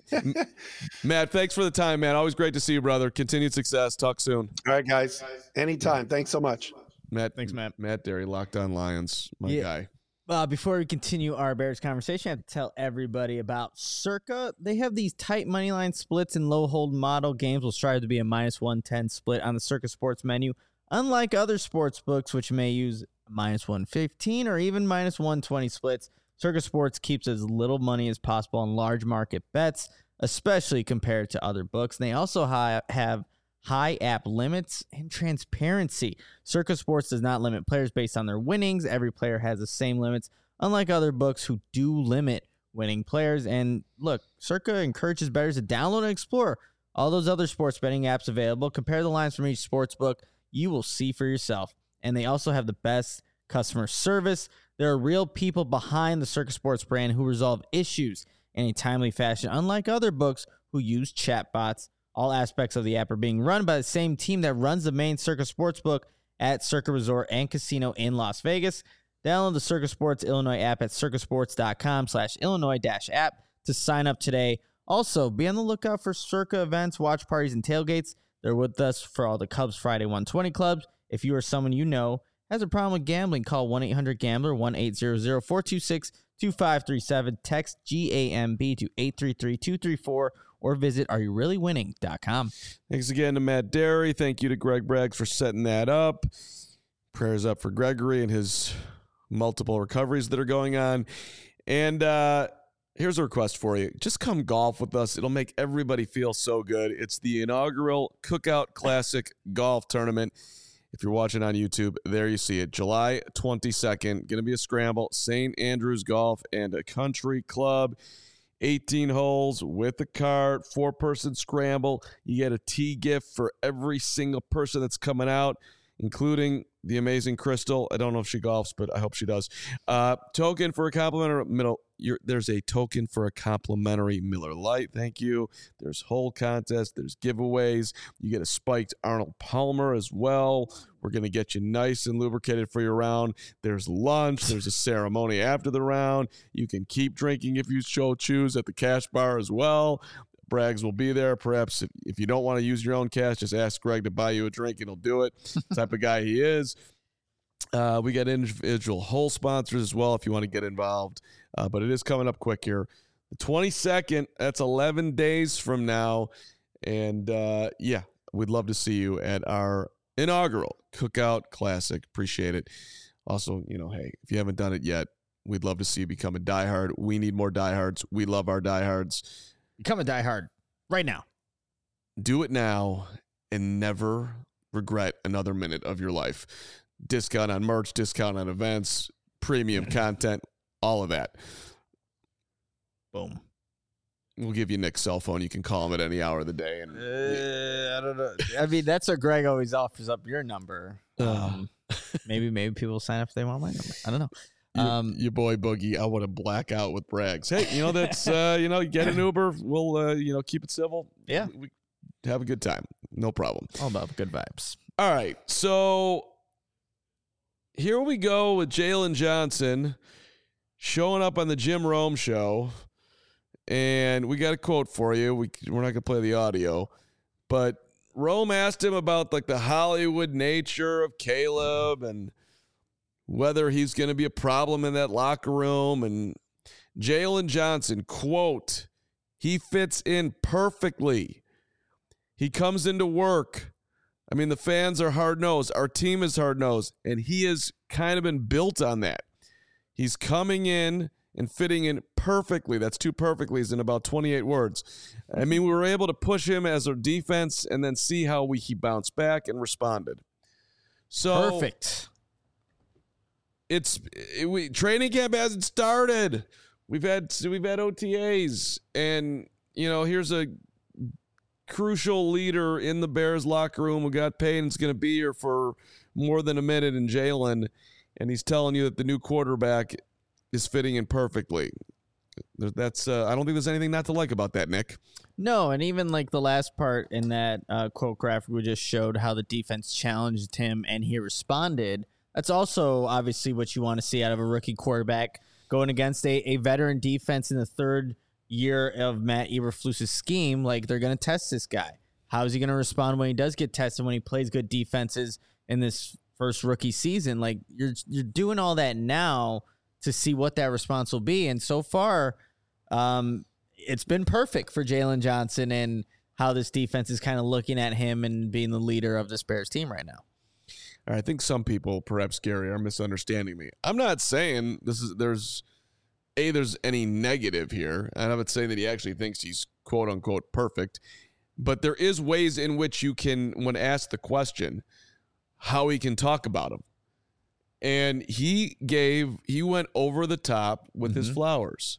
Matt, thanks for the time, man. Always great to see you, brother. Continued success. Talk soon. All right, guys. Anytime. Thanks so much. Matt. Thanks, Matt. Matt Derry, Locked On Lions, my guy. Before we continue our Bears conversation, I have to tell everybody about Circa. They have these tight money line splits and low hold model games will strive to be a -110 split on the Circa Sports menu. Unlike other sports books, which may use -115 or even -120 splits, Circa Sports keeps as little money as possible on large market bets, especially compared to other books. And they also have high app limits and transparency. Circa Sports does not limit players based on their winnings. Every player has the same limits, unlike other books who do limit winning players. And look, Circa encourages bettors to download and explore all those other sports betting apps available. Compare the lines from each sports book. You will see for yourself. And they also have the best customer service. There are real people behind the Circa Sports brand who resolve issues in a timely fashion, unlike other books who use chatbots. All aspects of the app are being run by the same team that runs the main Circa Sportsbook at Circa Resort and Casino in Las Vegas. Download the Circa Sports Illinois app at circasports.com/Illinois-app to sign up today. Also, be on the lookout for Circa events, watch parties, and tailgates. They're with us for all the Cubs Friday 120 clubs. If you or someone you know has a problem with gambling, call 1-800-GAMBLER, 1-800-426-2537. Text GAMB to 833-234 or visit areyoureallywinning.com. Thanks again to Matt Derry. Thank you to Greg Braggs for setting that up. Prayers up for Gregory and his multiple recoveries that are going on. And here's a request for you. Just come golf with us. It'll make everybody feel so good. It's the inaugural Cookout Classic Golf Tournament. If you're watching on YouTube, there you see it. July 22nd, going to be a scramble. St. Andrews Golf and a Country Club. 18 holes with a cart, 4-person scramble. You get a tee gift for every single person that's coming out, including the amazing Crystal. I don't know if she golfs, but I hope she does. Token for a complimentary there's a token for a complimentary Miller Lite. Thank you. There's hole contest. There's giveaways. You get a spiked Arnold Palmer as well. We're going to get you nice and lubricated for your round. There's lunch. There's a ceremony after the round. You can keep drinking if you choose at the cash bar as well. Braggs will be there. Perhaps if you don't want to use your own cash, just ask Greg to buy you a drink and he'll do it. The type of guy he is. We got individual hole sponsors as well if you want to get involved. But it is coming up quick here. The 22nd, that's 11 days from now. And, we'd love to see you at our inaugural Cookout Classic. Appreciate it. Also, hey, if you haven't done it yet, we'd love to see you become a diehard. We need more diehards. We love our diehards. Become a diehard right now. Do it now and never regret another minute of your life. Discount on merch, discount on events, premium content, all of that. Boom. We'll give you Nick's cell phone. You can call him at any hour of the day. And I don't know. I mean, that's what Greg always offers up your number. Maybe people sign up if they want my number. I don't know. Your boy Boogie, I want to black out with brags. Hey, that's you get an Uber. We'll keep it civil. Yeah, we have a good time. No problem. All about good vibes. All right, so here we go with Jalen Johnson showing up on the Jim Rome show, and we got a quote for you. We're not gonna play the audio, but Rome asked him about like the Hollywood nature of Caleb and whether he's going to be a problem in that locker room. And Jalen Johnson, quote, he fits in perfectly. He comes into work. I mean, the fans are hard-nosed. Our team is hard-nosed. And he has kind of been built on that. He's coming in and fitting in perfectly. That's two perfectly's in about 28 words. I mean, we were able to push him as our defense and then see how he bounced back and responded. So perfect. Training camp hasn't started. We've had OTAs, and here's a crucial leader in the Bears locker room who got paid and is going to be here for more than a minute in Jalen, and he's telling you that the new quarterback is fitting in perfectly. That's I don't think there's anything not to like about that, Nick. No, and even like the last part in that quote graphic we just showed how the defense challenged him and he responded. That's also obviously what you want to see out of a rookie quarterback going against a veteran defense in the third year of Matt Eberflus's scheme. Like, they're going to test this guy. How is he going to respond when he does get tested, when he plays good defenses in this first rookie season? Like, you're doing all that now to see what that response will be. And so far, it's been perfect for Jalen Johnson and how this defense is kind of looking at him and being the leader of this Bears team right now. I think some people, perhaps Gary, are misunderstanding me. I'm not saying there's any negative here. I'm not saying that he actually thinks he's quote unquote perfect, but there is ways in which you can, when asked the question, how he can talk about him. And he went over the top with his flowers.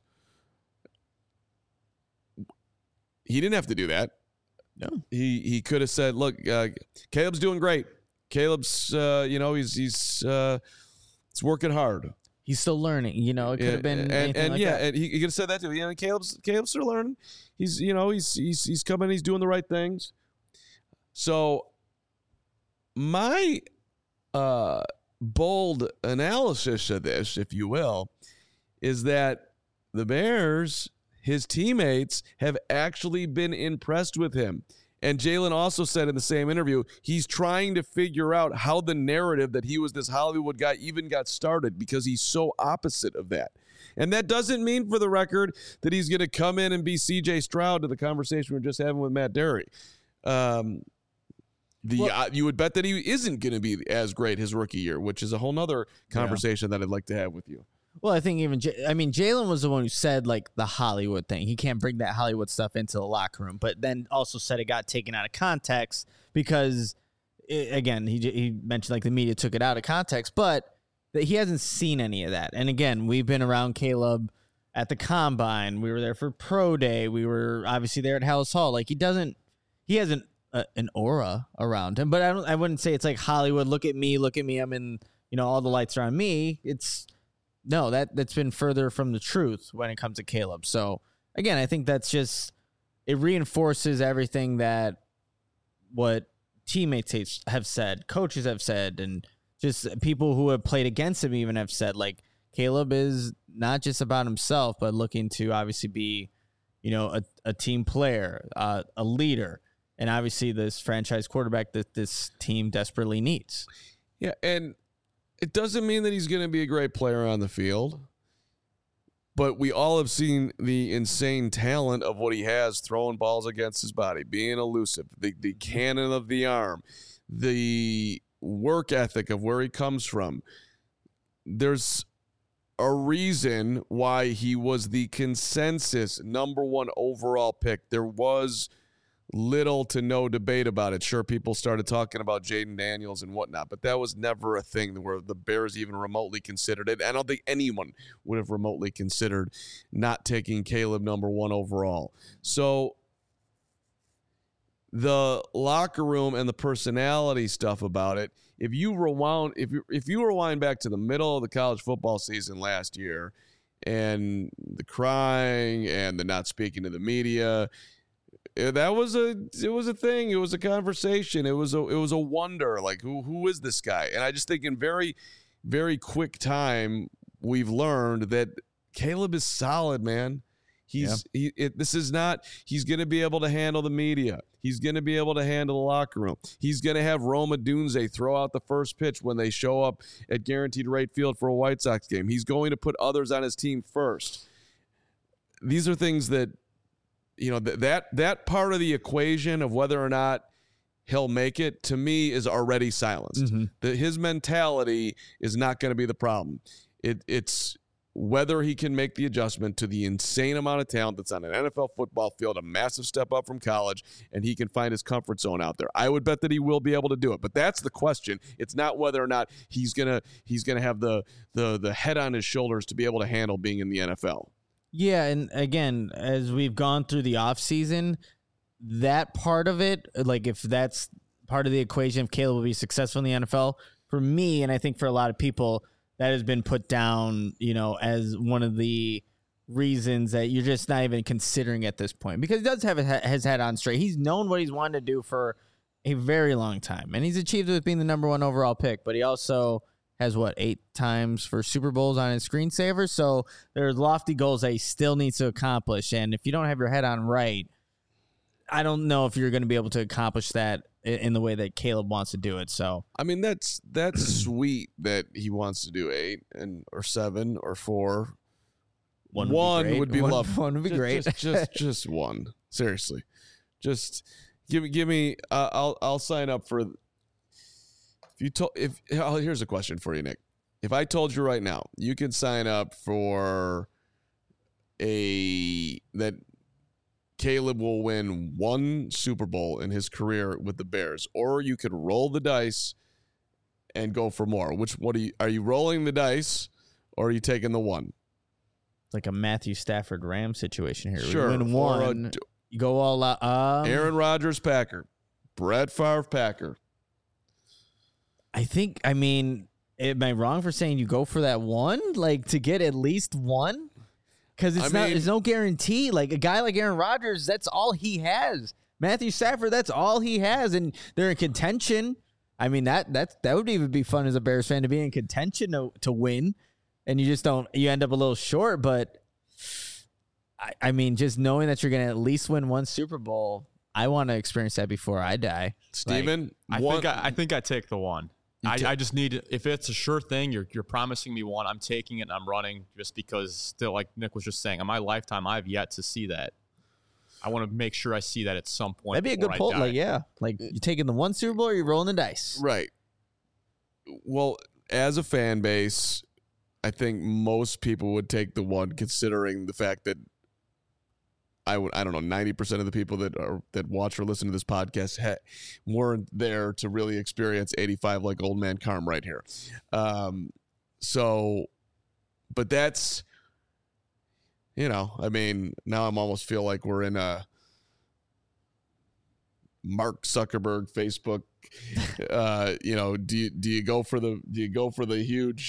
He didn't have to do that. No. He could have said, look, Caleb's doing great. Caleb's, he's working hard. He's still learning. It could have been anything like that. And he could have said that too. Caleb's still learning. He's coming. He's doing the right things. So my bold analysis of this, if you will, is that the Bears, his teammates, have actually been impressed with him. And Jalen also said in the same interview, he's trying to figure out how the narrative that he was this Hollywood guy even got started, because he's so opposite of that. And that doesn't mean, for the record, that he's going to come in and be C.J. Stroud to the conversation we were just having with Matt Derry. You would bet that he isn't going to be as great his rookie year, which is a whole nother conversation that I'd like to have with you. Well, I think Jalen was the one who said like the Hollywood thing. He can't bring that Hollywood stuff into the locker room, but then also said it got taken out of context because, again, he mentioned like the media took it out of context, but that he hasn't seen any of that. And again, we've been around Caleb at the Combine. We were there for Pro Day. We were obviously there at Hallis Hall. Like, he hasn't an aura around him, but I wouldn't say it's like Hollywood. Look at me. I'm in, all the lights are on me. No, that's been further from the truth when it comes to Caleb. So, again, I think that's just, it reinforces everything that what teammates have said, coaches have said, and just people who have played against him even have said. Like, Caleb is not just about himself, but looking to obviously be, a team player, a leader, and obviously this franchise quarterback that this team desperately needs. Yeah, and it doesn't mean that he's going to be a great player on the field, but we all have seen the insane talent of what he has throwing balls against his body, being elusive, the cannon of the arm, the work ethic of where he comes from. There's a reason why he was the consensus #1 overall pick. There was little to no debate about it. Sure, people started talking about Jaden Daniels and whatnot, but that was never a thing where the Bears even remotely considered it. I don't think anyone would have remotely considered not taking Caleb number 1 overall. So the locker room and the personality stuff about it, if you rewind back to the middle of the college football season last year and the crying and the not speaking to the media, it was a thing. It was a conversation. It was a wonder, like who is this guy? And I just think in very, very quick time we've learned that Caleb is solid, man. He's going to be able to handle the media. He's going to be able to handle the locker room. He's going to have Roma Dunze throw out the first pitch when they show up at Guaranteed Rate Field for a White Sox game. He's going to put others on his team first. These are things that, that part of the equation of whether or not he'll make it, to me, is already silenced. Mm-hmm. His mentality is not going to be the problem. It's whether he can make the adjustment to the insane amount of talent that's on an NFL football field, a massive step up from college, and he can find his comfort zone out there. I would bet that he will be able to do it, but that's the question. It's not whether or not he's gonna have the head on his shoulders to be able to handle being in the NFL. Yeah, and again, as we've gone through the offseason, that part of it, like if that's part of the equation, if Caleb will be successful in the NFL, for me, and I think for a lot of people, that has been put down, as one of the reasons that you're just not even considering at this point. Because he does have his head on straight. He's known what he's wanted to do for a very long time. And he's achieved it with being the number 1 overall pick. But he also has, 8 times for Super Bowls on his screensaver. So there's lofty goals that he still needs to accomplish. And if you don't have your head on right, I don't know if you're going to be able to accomplish that in the way that Caleb wants to do it. So I mean, that's sweet that he wants to do 8 or 7 or 4. One would be lovely. One would be great. Just one. Seriously, just give me. I'll sign up for. Here's a question for you, Nick. If I told you right now, you can sign up for that Caleb will win 1 Super Bowl in his career with the Bears, or you could roll the dice and go for more. Are you rolling the dice, or are you taking the 1? It's like a Matthew Stafford Ram situation here. Sure. We win 1, you go all out. Aaron Rodgers Packer, Brett Favre Packer. I mean, am I wrong for saying you go for that 1, like to get at least 1? Because there's no guarantee. Like a guy like Aaron Rodgers, that's all he has. Matthew Stafford, that's all he has, and they're in contention. I mean, that would even be fun as a Bears fan to be in contention to win, and you just don't. You end up a little short, but I mean, just knowing that you're going to at least win 1 Super Bowl, I want to experience that before I die. Steven, I think I take the 1. I just need, if it's a sure thing, you're promising me 1, I'm taking it and I'm running, just because still, like Nick was just saying, in my lifetime, I've yet to see that. I want to make sure I see that at some point. That'd be a good poll. Like, yeah. Like, you taking the 1 Super Bowl or you rolling the dice? Right. Well, as a fan base, I think most people would take the 1, considering the fact that I don't know, 90% of the people that watch or listen to this podcast weren't there to really experience 85 like old man Carm right here. So, but that's, I mean, now I'm almost feel like we're in a Mark Zuckerberg Facebook. Do you go for the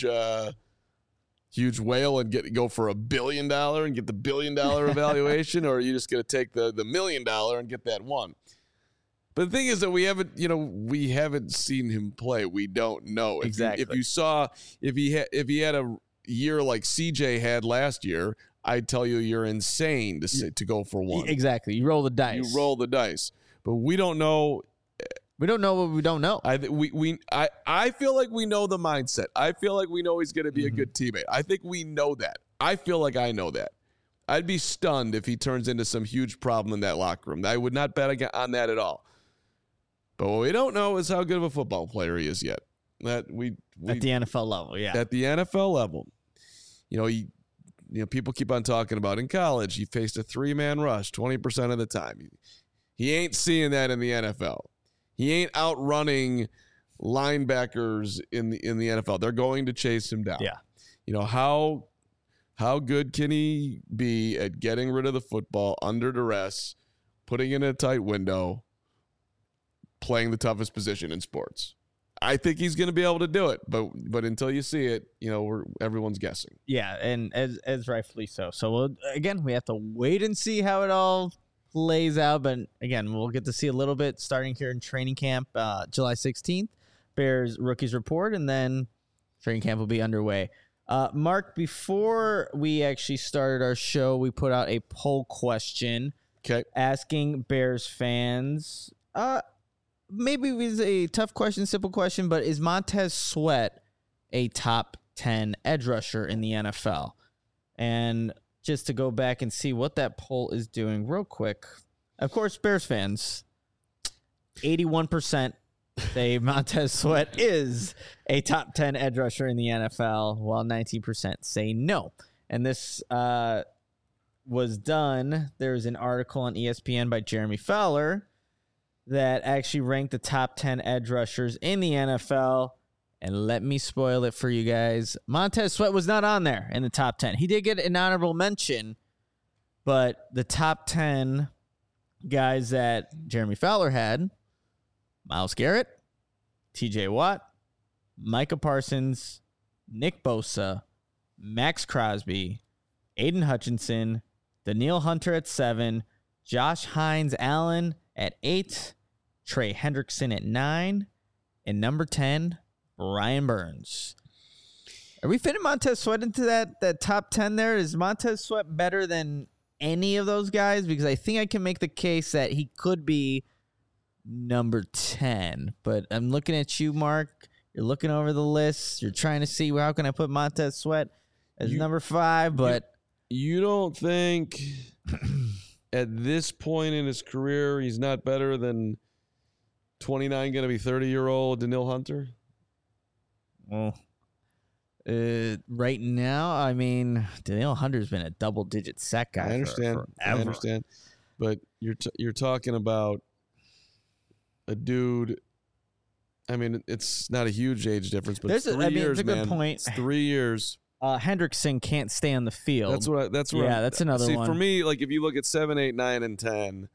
huge whale and go for $1 billion and get the $1 billion evaluation, or are you just going to take the $1 million and get that 1? But the thing is that we haven't seen him play. We don't know. Exactly. If he had a year like CJ had last year, I'd tell you you're insane to go for 1. Exactly. You roll the dice. But we don't know. We don't know what we don't know. I feel like we know the mindset. I feel like we know he's going to be a good teammate. I think we know that. I feel like I know that. I'd be stunned if he turns into some huge problem in that locker room. I would not bet on that at all. But what we don't know is how good of a football player he is yet. At the NFL level, yeah. At the NFL level. People keep on talking about in college, he faced a 3-man rush 20% of the time. He ain't seeing that in the NFL. He ain't outrunning linebackers in the NFL. They're going to chase him down. Yeah. You know, how good can he be at getting rid of the football under duress, putting it in a tight window, playing the toughest position in sports? I think he's going to be able to do it, but until you see it, you know, everyone's guessing. Yeah, and as rightfully so. So again, we have to wait and see how it all plays out. But again, we'll get to see a little bit starting here in training camp, July 16th. Bears rookies report, and then training camp will be underway. Mark, before we actually started our show, we put out a poll question asking Bears fans. Maybe it was a tough question, simple question, but is Montez Sweat a top 10 edge rusher in the NFL? And just to go back and see what that poll is doing real quick. Of course, Bears fans, 81% say Montez Sweat is a top 10 edge rusher in the NFL, while 19% say no. And this was done. There's an article on ESPN by Jeremy Fowler that actually ranked the top 10 edge rushers in the NFL. And let me spoil it for you guys. Montez Sweat was not on there in the top 10. He did get an honorable mention, but the top 10 guys that Jeremy Fowler had: Myles Garrett, TJ Watt, Micah Parsons, Nick Bosa, Max Crosby, Aiden Hutchinson, Danielle Hunter at 7, Josh Hines-Allen at 8, Trey Hendrickson at 9, and number 10, Brian Burns. Are we fitting Montez Sweat into that top 10 there? Is Montez Sweat better than any of those guys? Because I think I can make the case that he could be number 10. But I'm looking at you, Mark. You're looking over the list. You're trying to see how can I put Montez Sweat as number 5, but you don't think at this point in his career he's not better than 29 going to be 30-year-old Danielle Hunter? Well, right now, I mean, Danielle Hunter's been a double-digit sack guy. I understand. For forever. I understand. But you're talking about a dude. I mean, it's not a huge age difference, but it's 3 years, it's a good man. point. It's 3 years. Hendrickson can't stay on the field. That's what. Yeah, that's another one. For me, like if you look at 7, 8, 9, and 10,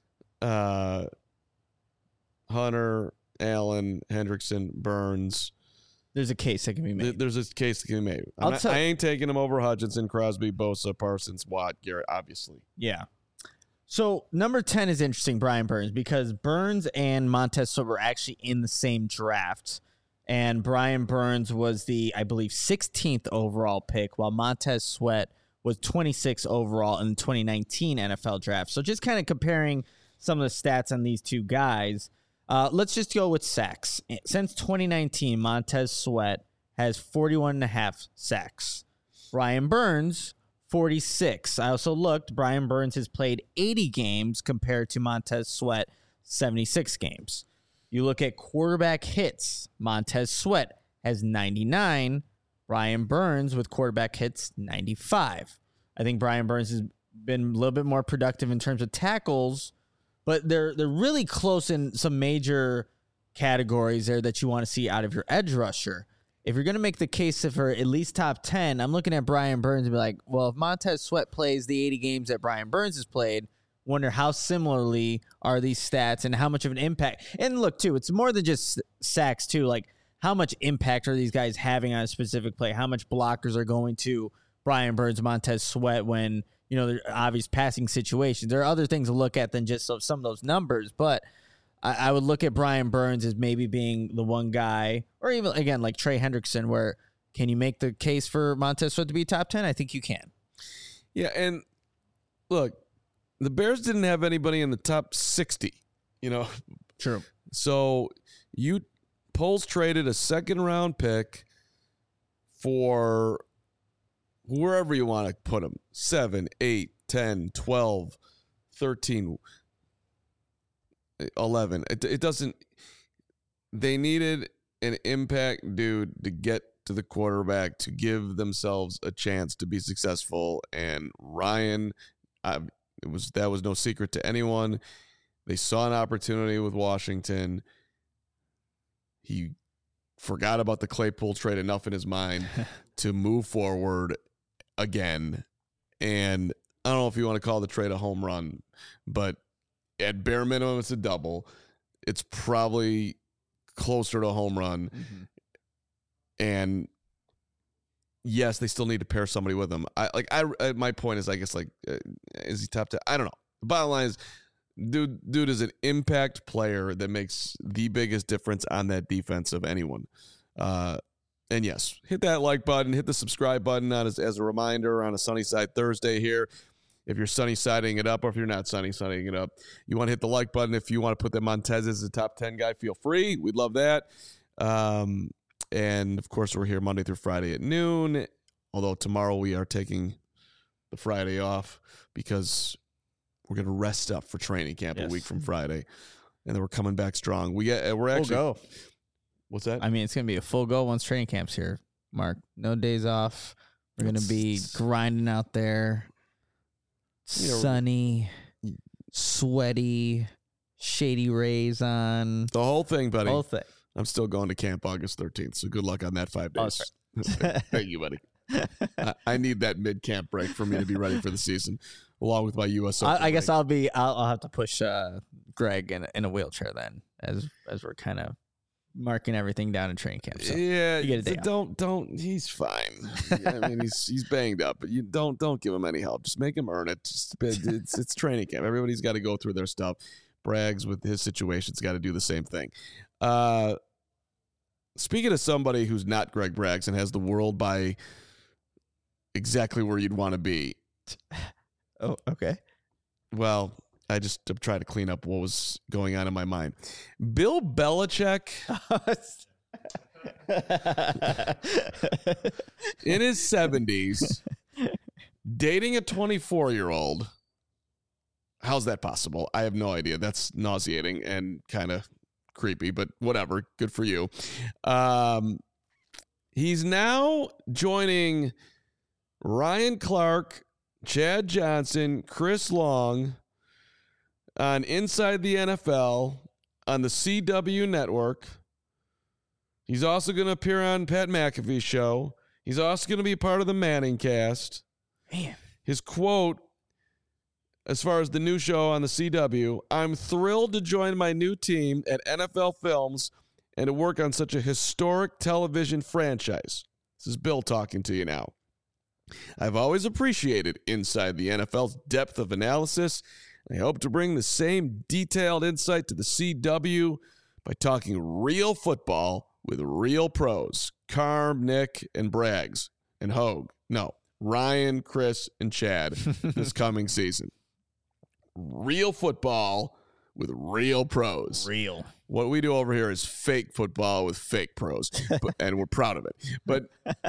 Hunter, Allen, Hendrickson, Burns. There's a case that can be made. There's a case that can be made. I ain't taking him over Hutchinson, Crosby, Bosa, Parsons, Watt, Garrett, obviously. Yeah. So number 10 is interesting, Brian Burns, because Burns and Montez Sweat were actually in the same draft. And Brian Burns was the, I believe, 16th overall pick, while Montez Sweat was 26th overall in the 2019 NFL draft. So just kind of comparing some of the stats on these two guys. Let's just go with sacks. Since 2019, Montez Sweat has 41.5 sacks. Brian Burns, 46. I also looked. Brian Burns has played 80 games compared to Montez Sweat, 76 games. You look at quarterback hits. Montez Sweat has 99. Brian Burns with quarterback hits, 95. I think Brian Burns has been a little bit more productive in terms of tackles, but they're really close in some major categories there that you want to see out of your edge rusher. If you're going to make the case for at least top 10, I'm looking at Brian Burns and be like, well, if Montez Sweat plays the 80 games that Brian Burns has played, wonder how similarly are these stats and how much of an impact. And look, too, it's more than just sacks, too. Like, how much impact are these guys having on a specific play? How much blockers are going to Brian Burns, Montez Sweat when, you know, there are obvious passing situations? There are other things to look at than just some of those numbers, but I would look at Brian Burns as maybe being the one guy, or even, again, like Trey Hendrickson, where can you make the case for Montez Sweat to be top 10? I think you can. Yeah, and look, the Bears didn't have anybody in the top 60, you know. True. So Poles traded a second-round pick for wherever you want to put him, 7, 8, 10, 12, 13, 11. It doesn't – they needed an impact dude to get to the quarterback to give themselves a chance to be successful, and Ryan that was no secret to anyone. They saw an opportunity with Washington. He forgot about the Claypool trade enough in his mind to move forward again. And I don't know if you want to call the trade a home run, but at bare minimum, it's a double. It's probably closer to a home run. Mm-hmm. And yes, they still need to pair somebody with him. My point is, I guess, is he top 10? I don't know. The bottom line is, dude is an impact player that makes the biggest difference on that defense of anyone. And yes, hit that like button, hit the subscribe button as a reminder on a Sunnyside Thursday here. If you're sunny-siding it up, or if you're not sunny-siding it up, you want to hit the like button. If you want to put them Montez as a top 10 guy, feel free. We'd love that. And, of course, we're here Monday through Friday at noon, although tomorrow we are taking the Friday off because we're going to rest up for training camp a week from Friday, and then we're coming back strong. We're actually full go. What's that? I mean, it's going to be a full go once training camp's here, Mark. No days off. We're going to be grinding out there. Sunny, sweaty, shady rays on. The whole thing, buddy. Whole thing. I'm still going to camp August 13th, so good luck on that 5 days. Thank you, buddy. I need that mid-camp break for me to be ready for the season, along with my U.S. Open I guess I'll have to push Greg in a wheelchair then, as we're kind of marking everything down in training camp. So yeah, you get a day don't. He's fine. I mean, he's banged up, but you don't give him any help. Just make him earn it. It's training camp. Everybody's got to go through their stuff. Braggs with his situation's got to do the same thing. Speaking of somebody who's not Greg Braggs and has the world by exactly where you'd want to be. Oh, okay. Well, I'm trying to clean up what was going on in my mind. Bill Belichick, in his 70s, dating a 24-year-old. How's that possible? I have no idea. That's nauseating and kind of creepy, but whatever. Good for you. He's now joining Ryan Clark, Chad Johnson, Chris Long on Inside the NFL on the CW network. He's also going to appear on Pat McAfee's show. He's also going to be a part of the Manning cast. Man. His quote, as far as the new show on the CW, "I'm thrilled to join my new team at NFL Films and to work on such a historic television franchise." This is Bill talking to you now. "I've always appreciated Inside the NFL's depth of analysis. I hope to bring the same detailed insight to the CW by talking real football with real pros. Carm, Nick, and Braggs, and Hogue. No, Ryan, Chris, and Chad this coming season. Real football with real pros. Real. What we do over here is fake football with fake pros, and we're proud of it. But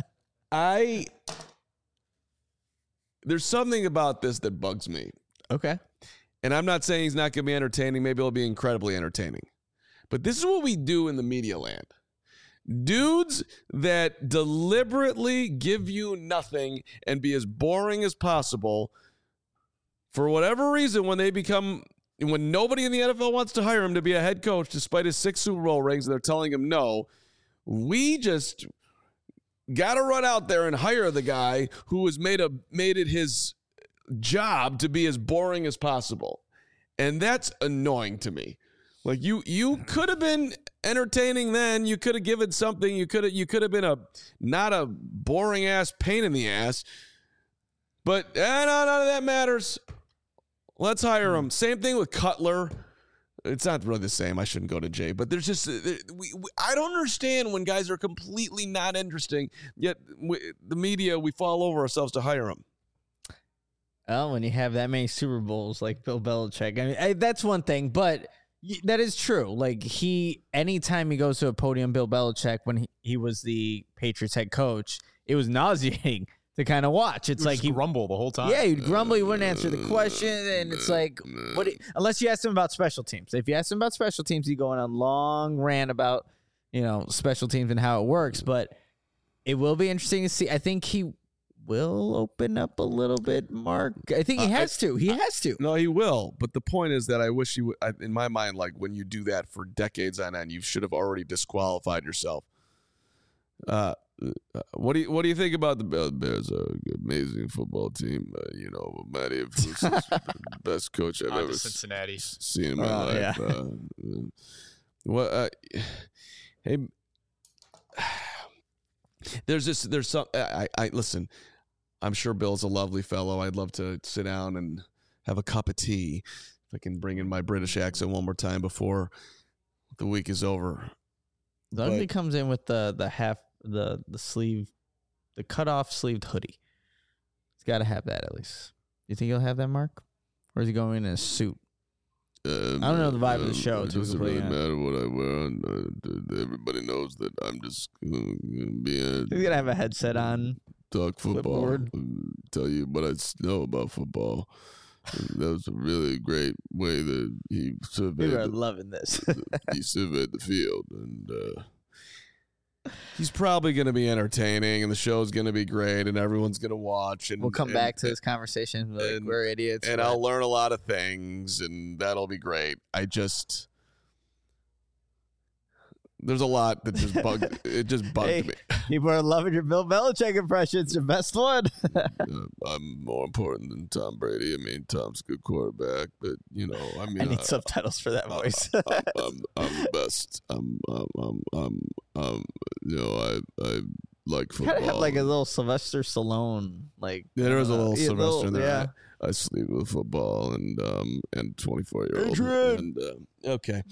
there's something about this that bugs me. Okay. And I'm not saying he's not going to be entertaining. Maybe he'll be incredibly entertaining. But this is what we do in the media land. Dudes that deliberately give you nothing and be as boring as possible, for whatever reason, when nobody in the NFL wants to hire him to be a head coach despite his 6 Super Bowl rings and they're telling him no, we just got to run out there and hire the guy who has made it his job to be as boring as possible. And that's annoying to me. Like you could have been entertaining then. You could have given something. You could have been not a boring ass pain in the ass. But no, none of that matters. Let's hire him. Same thing with Cutler. It's not really the same. I shouldn't go to Jay, but there's just I don't understand when guys are completely not interesting. Yet the media, we fall over ourselves to hire them. Well, when you have that many Super Bowls like Bill Belichick, I mean, that's one thing, but that is true. Like anytime he goes to a podium, Bill Belichick, when he was the Patriots head coach, it was nauseating to kind of watch. It's like he'd grumble the whole time. Yeah, he'd grumble. He wouldn't answer the question, and it's like, unless you ask him about special teams. If you ask him about special teams, he'd go on a long rant about special teams and how it works. But it will be interesting to see. I think he will open up a little bit, Mark. I think he has to. He has to. No, he will. But the point is that I wish he would. In my mind, like when you do that for decades on end, you should have already disqualified yourself. What do you think about the Bears? Bears are an amazing football team. Matty is the best coach I've ever Cincinnati. seen in my life. Yeah. Hey, there's some. I listen. I'm sure Bill's a lovely fellow. I'd love to sit down and have a cup of tea. If I can bring in my British accent one more time before the week is over. The ugly comes in with the sleeve, the cut off sleeved hoodie. He's got to have that at least. You think he'll have that, Mark? Or is he going in a suit? I don't know the vibe of the show. It doesn't really matter what I wear. Everybody knows that I'm just going to be He's gonna have a headset on. Talk football. Tell you what I know about football. That was a really great way that he surveyed. We are loving this. He surveyed the field, and he's probably going to be entertaining, and the show's going to be great, and everyone's going to watch. And we'll come back to this conversation. Like, we're idiots, and I'll learn a lot of things, and that'll be great. There's a lot that just bugged. It just bugged me. People are loving your Bill Belichick impression. It's the best one. I'm more important than Tom Brady. I mean, Tom's a good quarterback, but I need subtitles for that voice. I'm the best. I like football. Kind of have like a little Sylvester Stallone, like there is a little Sylvester in there. Yeah. I sleep with football and 24-year-old. Adrian! And okay.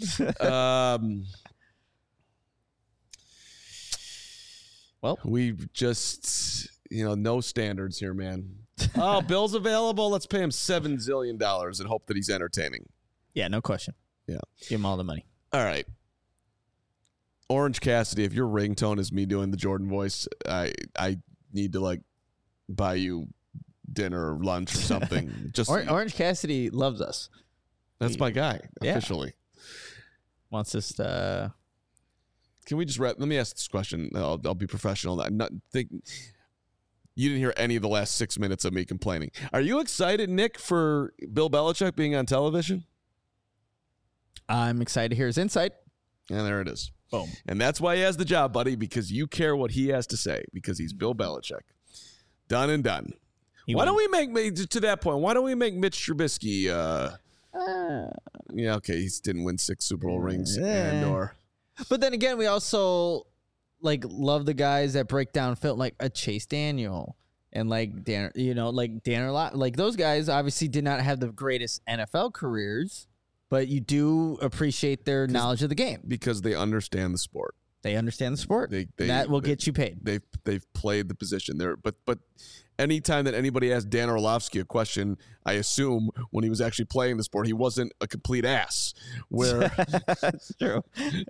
Well, we just, no standards here, man. Oh, Bill's available. Let's pay him $7 zillion and hope that he's entertaining. Yeah, no question. Yeah. Give him all the money. All right. Orange Cassidy, if your ringtone is me doing the Jordan voice, I need to buy you dinner or lunch or something. Just Orange Cassidy loves us. That's my guy, officially. Wants us to... Can we just let me ask this question? I'll be professional. I'm not think you didn't hear any of the last 6 minutes of me complaining. Are you excited, Nick, for Bill Belichick being on television? I'm excited to hear his insight. And there it is. Boom. And that's why he has the job, buddy, because you care what he has to say, because he's Bill Belichick. Done and done. Why don't we make, to that point, why don't we make Mitch Trubisky, yeah, okay, he didn't win 6 Super Bowl rings or... But then again, we also love the guys that break down film, like a Chase Daniel and Dan, Dan Orlovsky. Like those guys obviously did not have the greatest NFL careers, but you do appreciate their knowledge of the game because they understand the sport. They understand the sport. That will get you paid. They've played the position there, but anytime that anybody asks Dan Orlovsky a question, I assume when he was actually playing the sport, he wasn't a complete ass. Where that's true.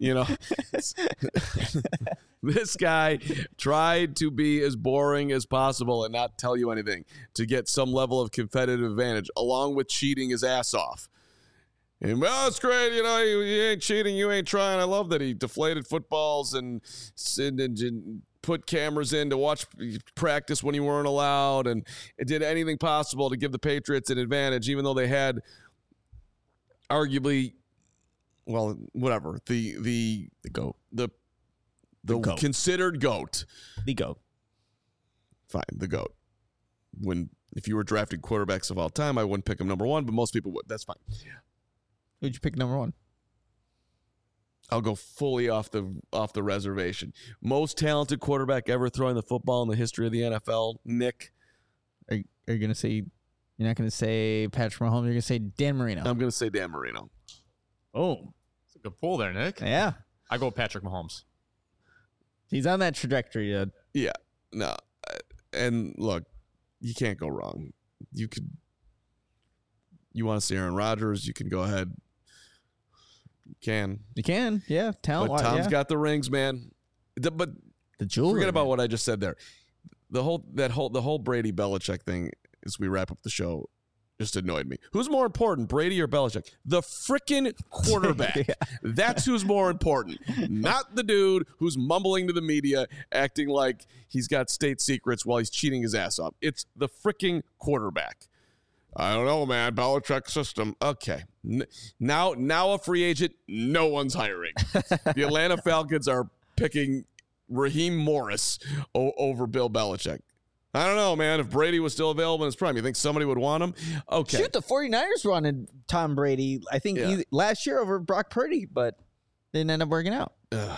This guy tried to be as boring as possible and not tell you anything to get some level of competitive advantage, along with cheating his ass off. And it's great, you ain't cheating, you ain't trying. I love that he deflated footballs and put cameras in to watch practice when you weren't allowed, and it did anything possible to give the Patriots an advantage, even though they had arguably, well, whatever, the GOAT, the GOAT. Considered GOAT, the GOAT. Fine, the GOAT. If you were drafting quarterbacks of all time, I wouldn't pick him number 1, but most people would. That's fine. Who'd you pick number 1? I'll go fully off the reservation. Most talented quarterback ever throwing the football in the history of the NFL, Nick. Are you going to say, you're not going to say Patrick Mahomes, you're going to say Dan Marino? I'm going to say Dan Marino. Oh. It's a good pull there, Nick. Yeah. I go with Patrick Mahomes. He's on that trajectory. Yeah. No. And look, you can't go wrong. You want to see Aaron Rodgers, you can go ahead. You can, yeah. Talent, but Tom's got the rings, man. But the jewelry. Forget about what I just said there. The whole Brady Belichick thing, as we wrap up the show, just annoyed me. Who's more important, Brady or Belichick? The frickin' quarterback. Yeah. That's who's more important. Not the dude who's mumbling to the media, acting like he's got state secrets while he's cheating his ass off. It's the frickin' quarterback. I don't know, man. Belichick system. Okay. Now a free agent, no one's hiring. The Atlanta Falcons are picking Raheem Morris over Bill Belichick. I don't know, man. If Brady was still available in his prime, you think somebody would want him? Okay. Shoot, the 49ers wanted Tom Brady, I think, last year over Brock Purdy, but didn't end up working out.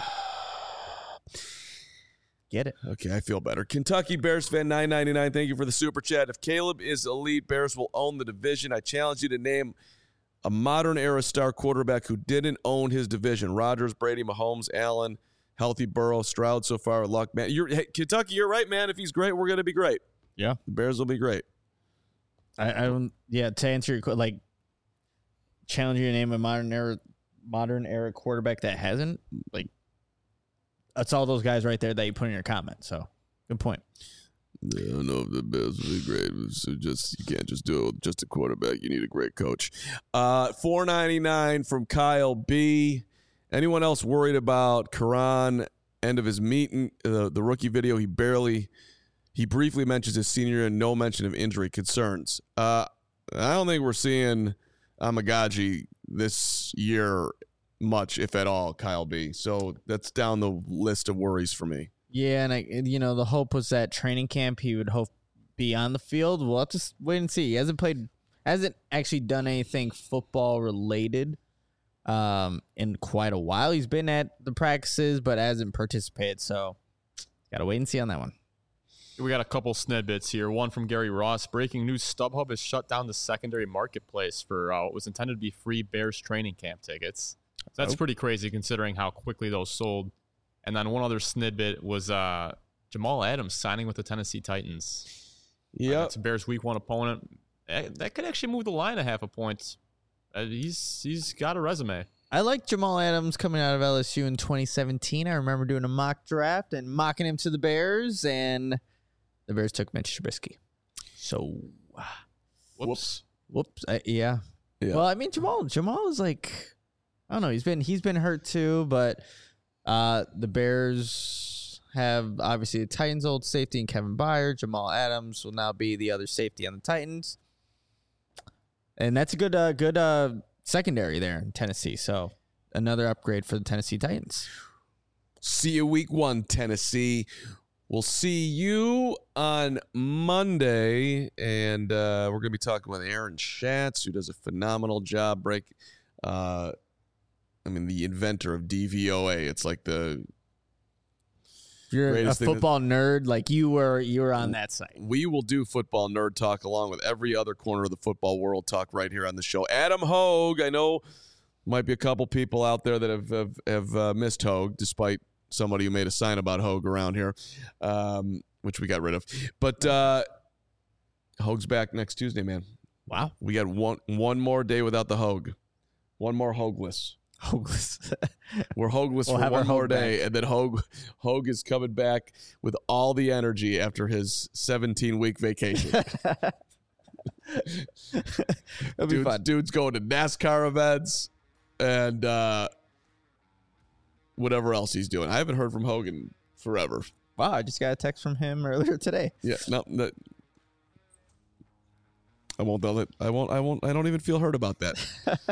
Get it. Okay, I feel better. Kentucky Bears fan 999, thank you for the super chat. If Caleb is elite, Bears will own the division. I challenge you to name a modern-era star quarterback who didn't own his division. Rodgers, Brady, Mahomes, Allen, healthy Burrow, Stroud so far, luck, man. Kentucky, you're right, man. If he's great, we're going to be great. Yeah. The Bears will be great. I don't, to answer your question, challenge you to name a modern era quarterback that hasn't, that's all those guys right there that you put in your comment. So, good point. Yeah, I don't know if the Bears will be great. So you can't just do it with just a quarterback. You need a great coach. $4.99 from Kyle B. Anyone else worried about Karan, end of his meeting, the rookie video? He briefly mentions his senior year and no mention of injury concerns. I don't think we're seeing Amagaji this year much, if at all, Kyle B. So that's down the list of worries for me. Yeah, and the hope was that training camp he would be on the field. We'll have to wait and see. He hasn't actually done anything football related in quite a while. He's been at the practices, but hasn't participated. So, gotta wait and see on that one. We got a couple snippets here. One from Gary Ross. Breaking news: StubHub has shut down the secondary marketplace for what was intended to be free Bears training camp tickets. So that's pretty crazy considering how quickly those sold. And then one other snippet was Jamal Adams signing with the Tennessee Titans. Yeah, it's a Bears Week 1 opponent. That could actually move the line a half a point. He's got a resume. I like Jamal Adams coming out of LSU in 2017. I remember doing a mock draft and mocking him to the Bears, and the Bears took Mitch Trubisky. So, whoops. Yeah. Well, I mean, Jamal is like, I don't know. He's been hurt too, but the Bears have obviously the Titans' old safety and Kevin Byard. Jamal Adams will now be the other safety on the Titans. And that's a good secondary there in Tennessee. So another upgrade for the Tennessee Titans. See you week 1, Tennessee. We'll see you on Monday, and we're going to be talking with Aaron Schatz, who does a phenomenal job the inventor of DVOA. It's like the You're a football nerd, like you were on that site. We will do football nerd talk along with every other corner of the football world talk right here on the show. Adam Hogue, I know might be a couple people out there that have missed Hogue, despite somebody who made a sign about Hogue around here, which we got rid of. But Hogue's back next Tuesday, man. Wow. We got one more day without the Hogue. One more Hogeless. We're Hogeless for one more day, and then Hogue is coming back with all the energy after his 17-week vacation. Dude's going to NASCAR events and whatever else he's doing. I haven't heard from Hogan forever. Wow, I just got a text from him earlier today. Yeah, no, I won't. I don't even feel hurt about that.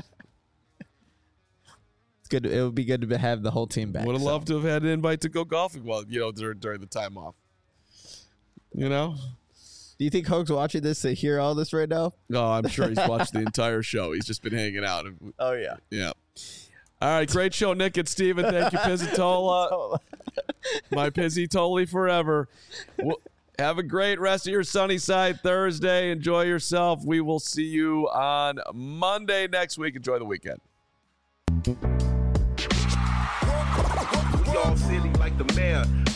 Good. It would be good to have the whole team back. Would have loved to have had an invite to go golfing during the time off. Do you think Hogue's watching this to hear all this right now? No, I'm sure he's watched the entire show. He's just been hanging out. Oh, yeah. Yeah. All right, great show, Nick and Steven. Thank you, Pizzatola. My Pizzitoli forever. Have a great rest of your Sunnyside Thursday. Enjoy yourself. We will see you on Monday next week. Enjoy the weekend. Y'all silly like the mayor.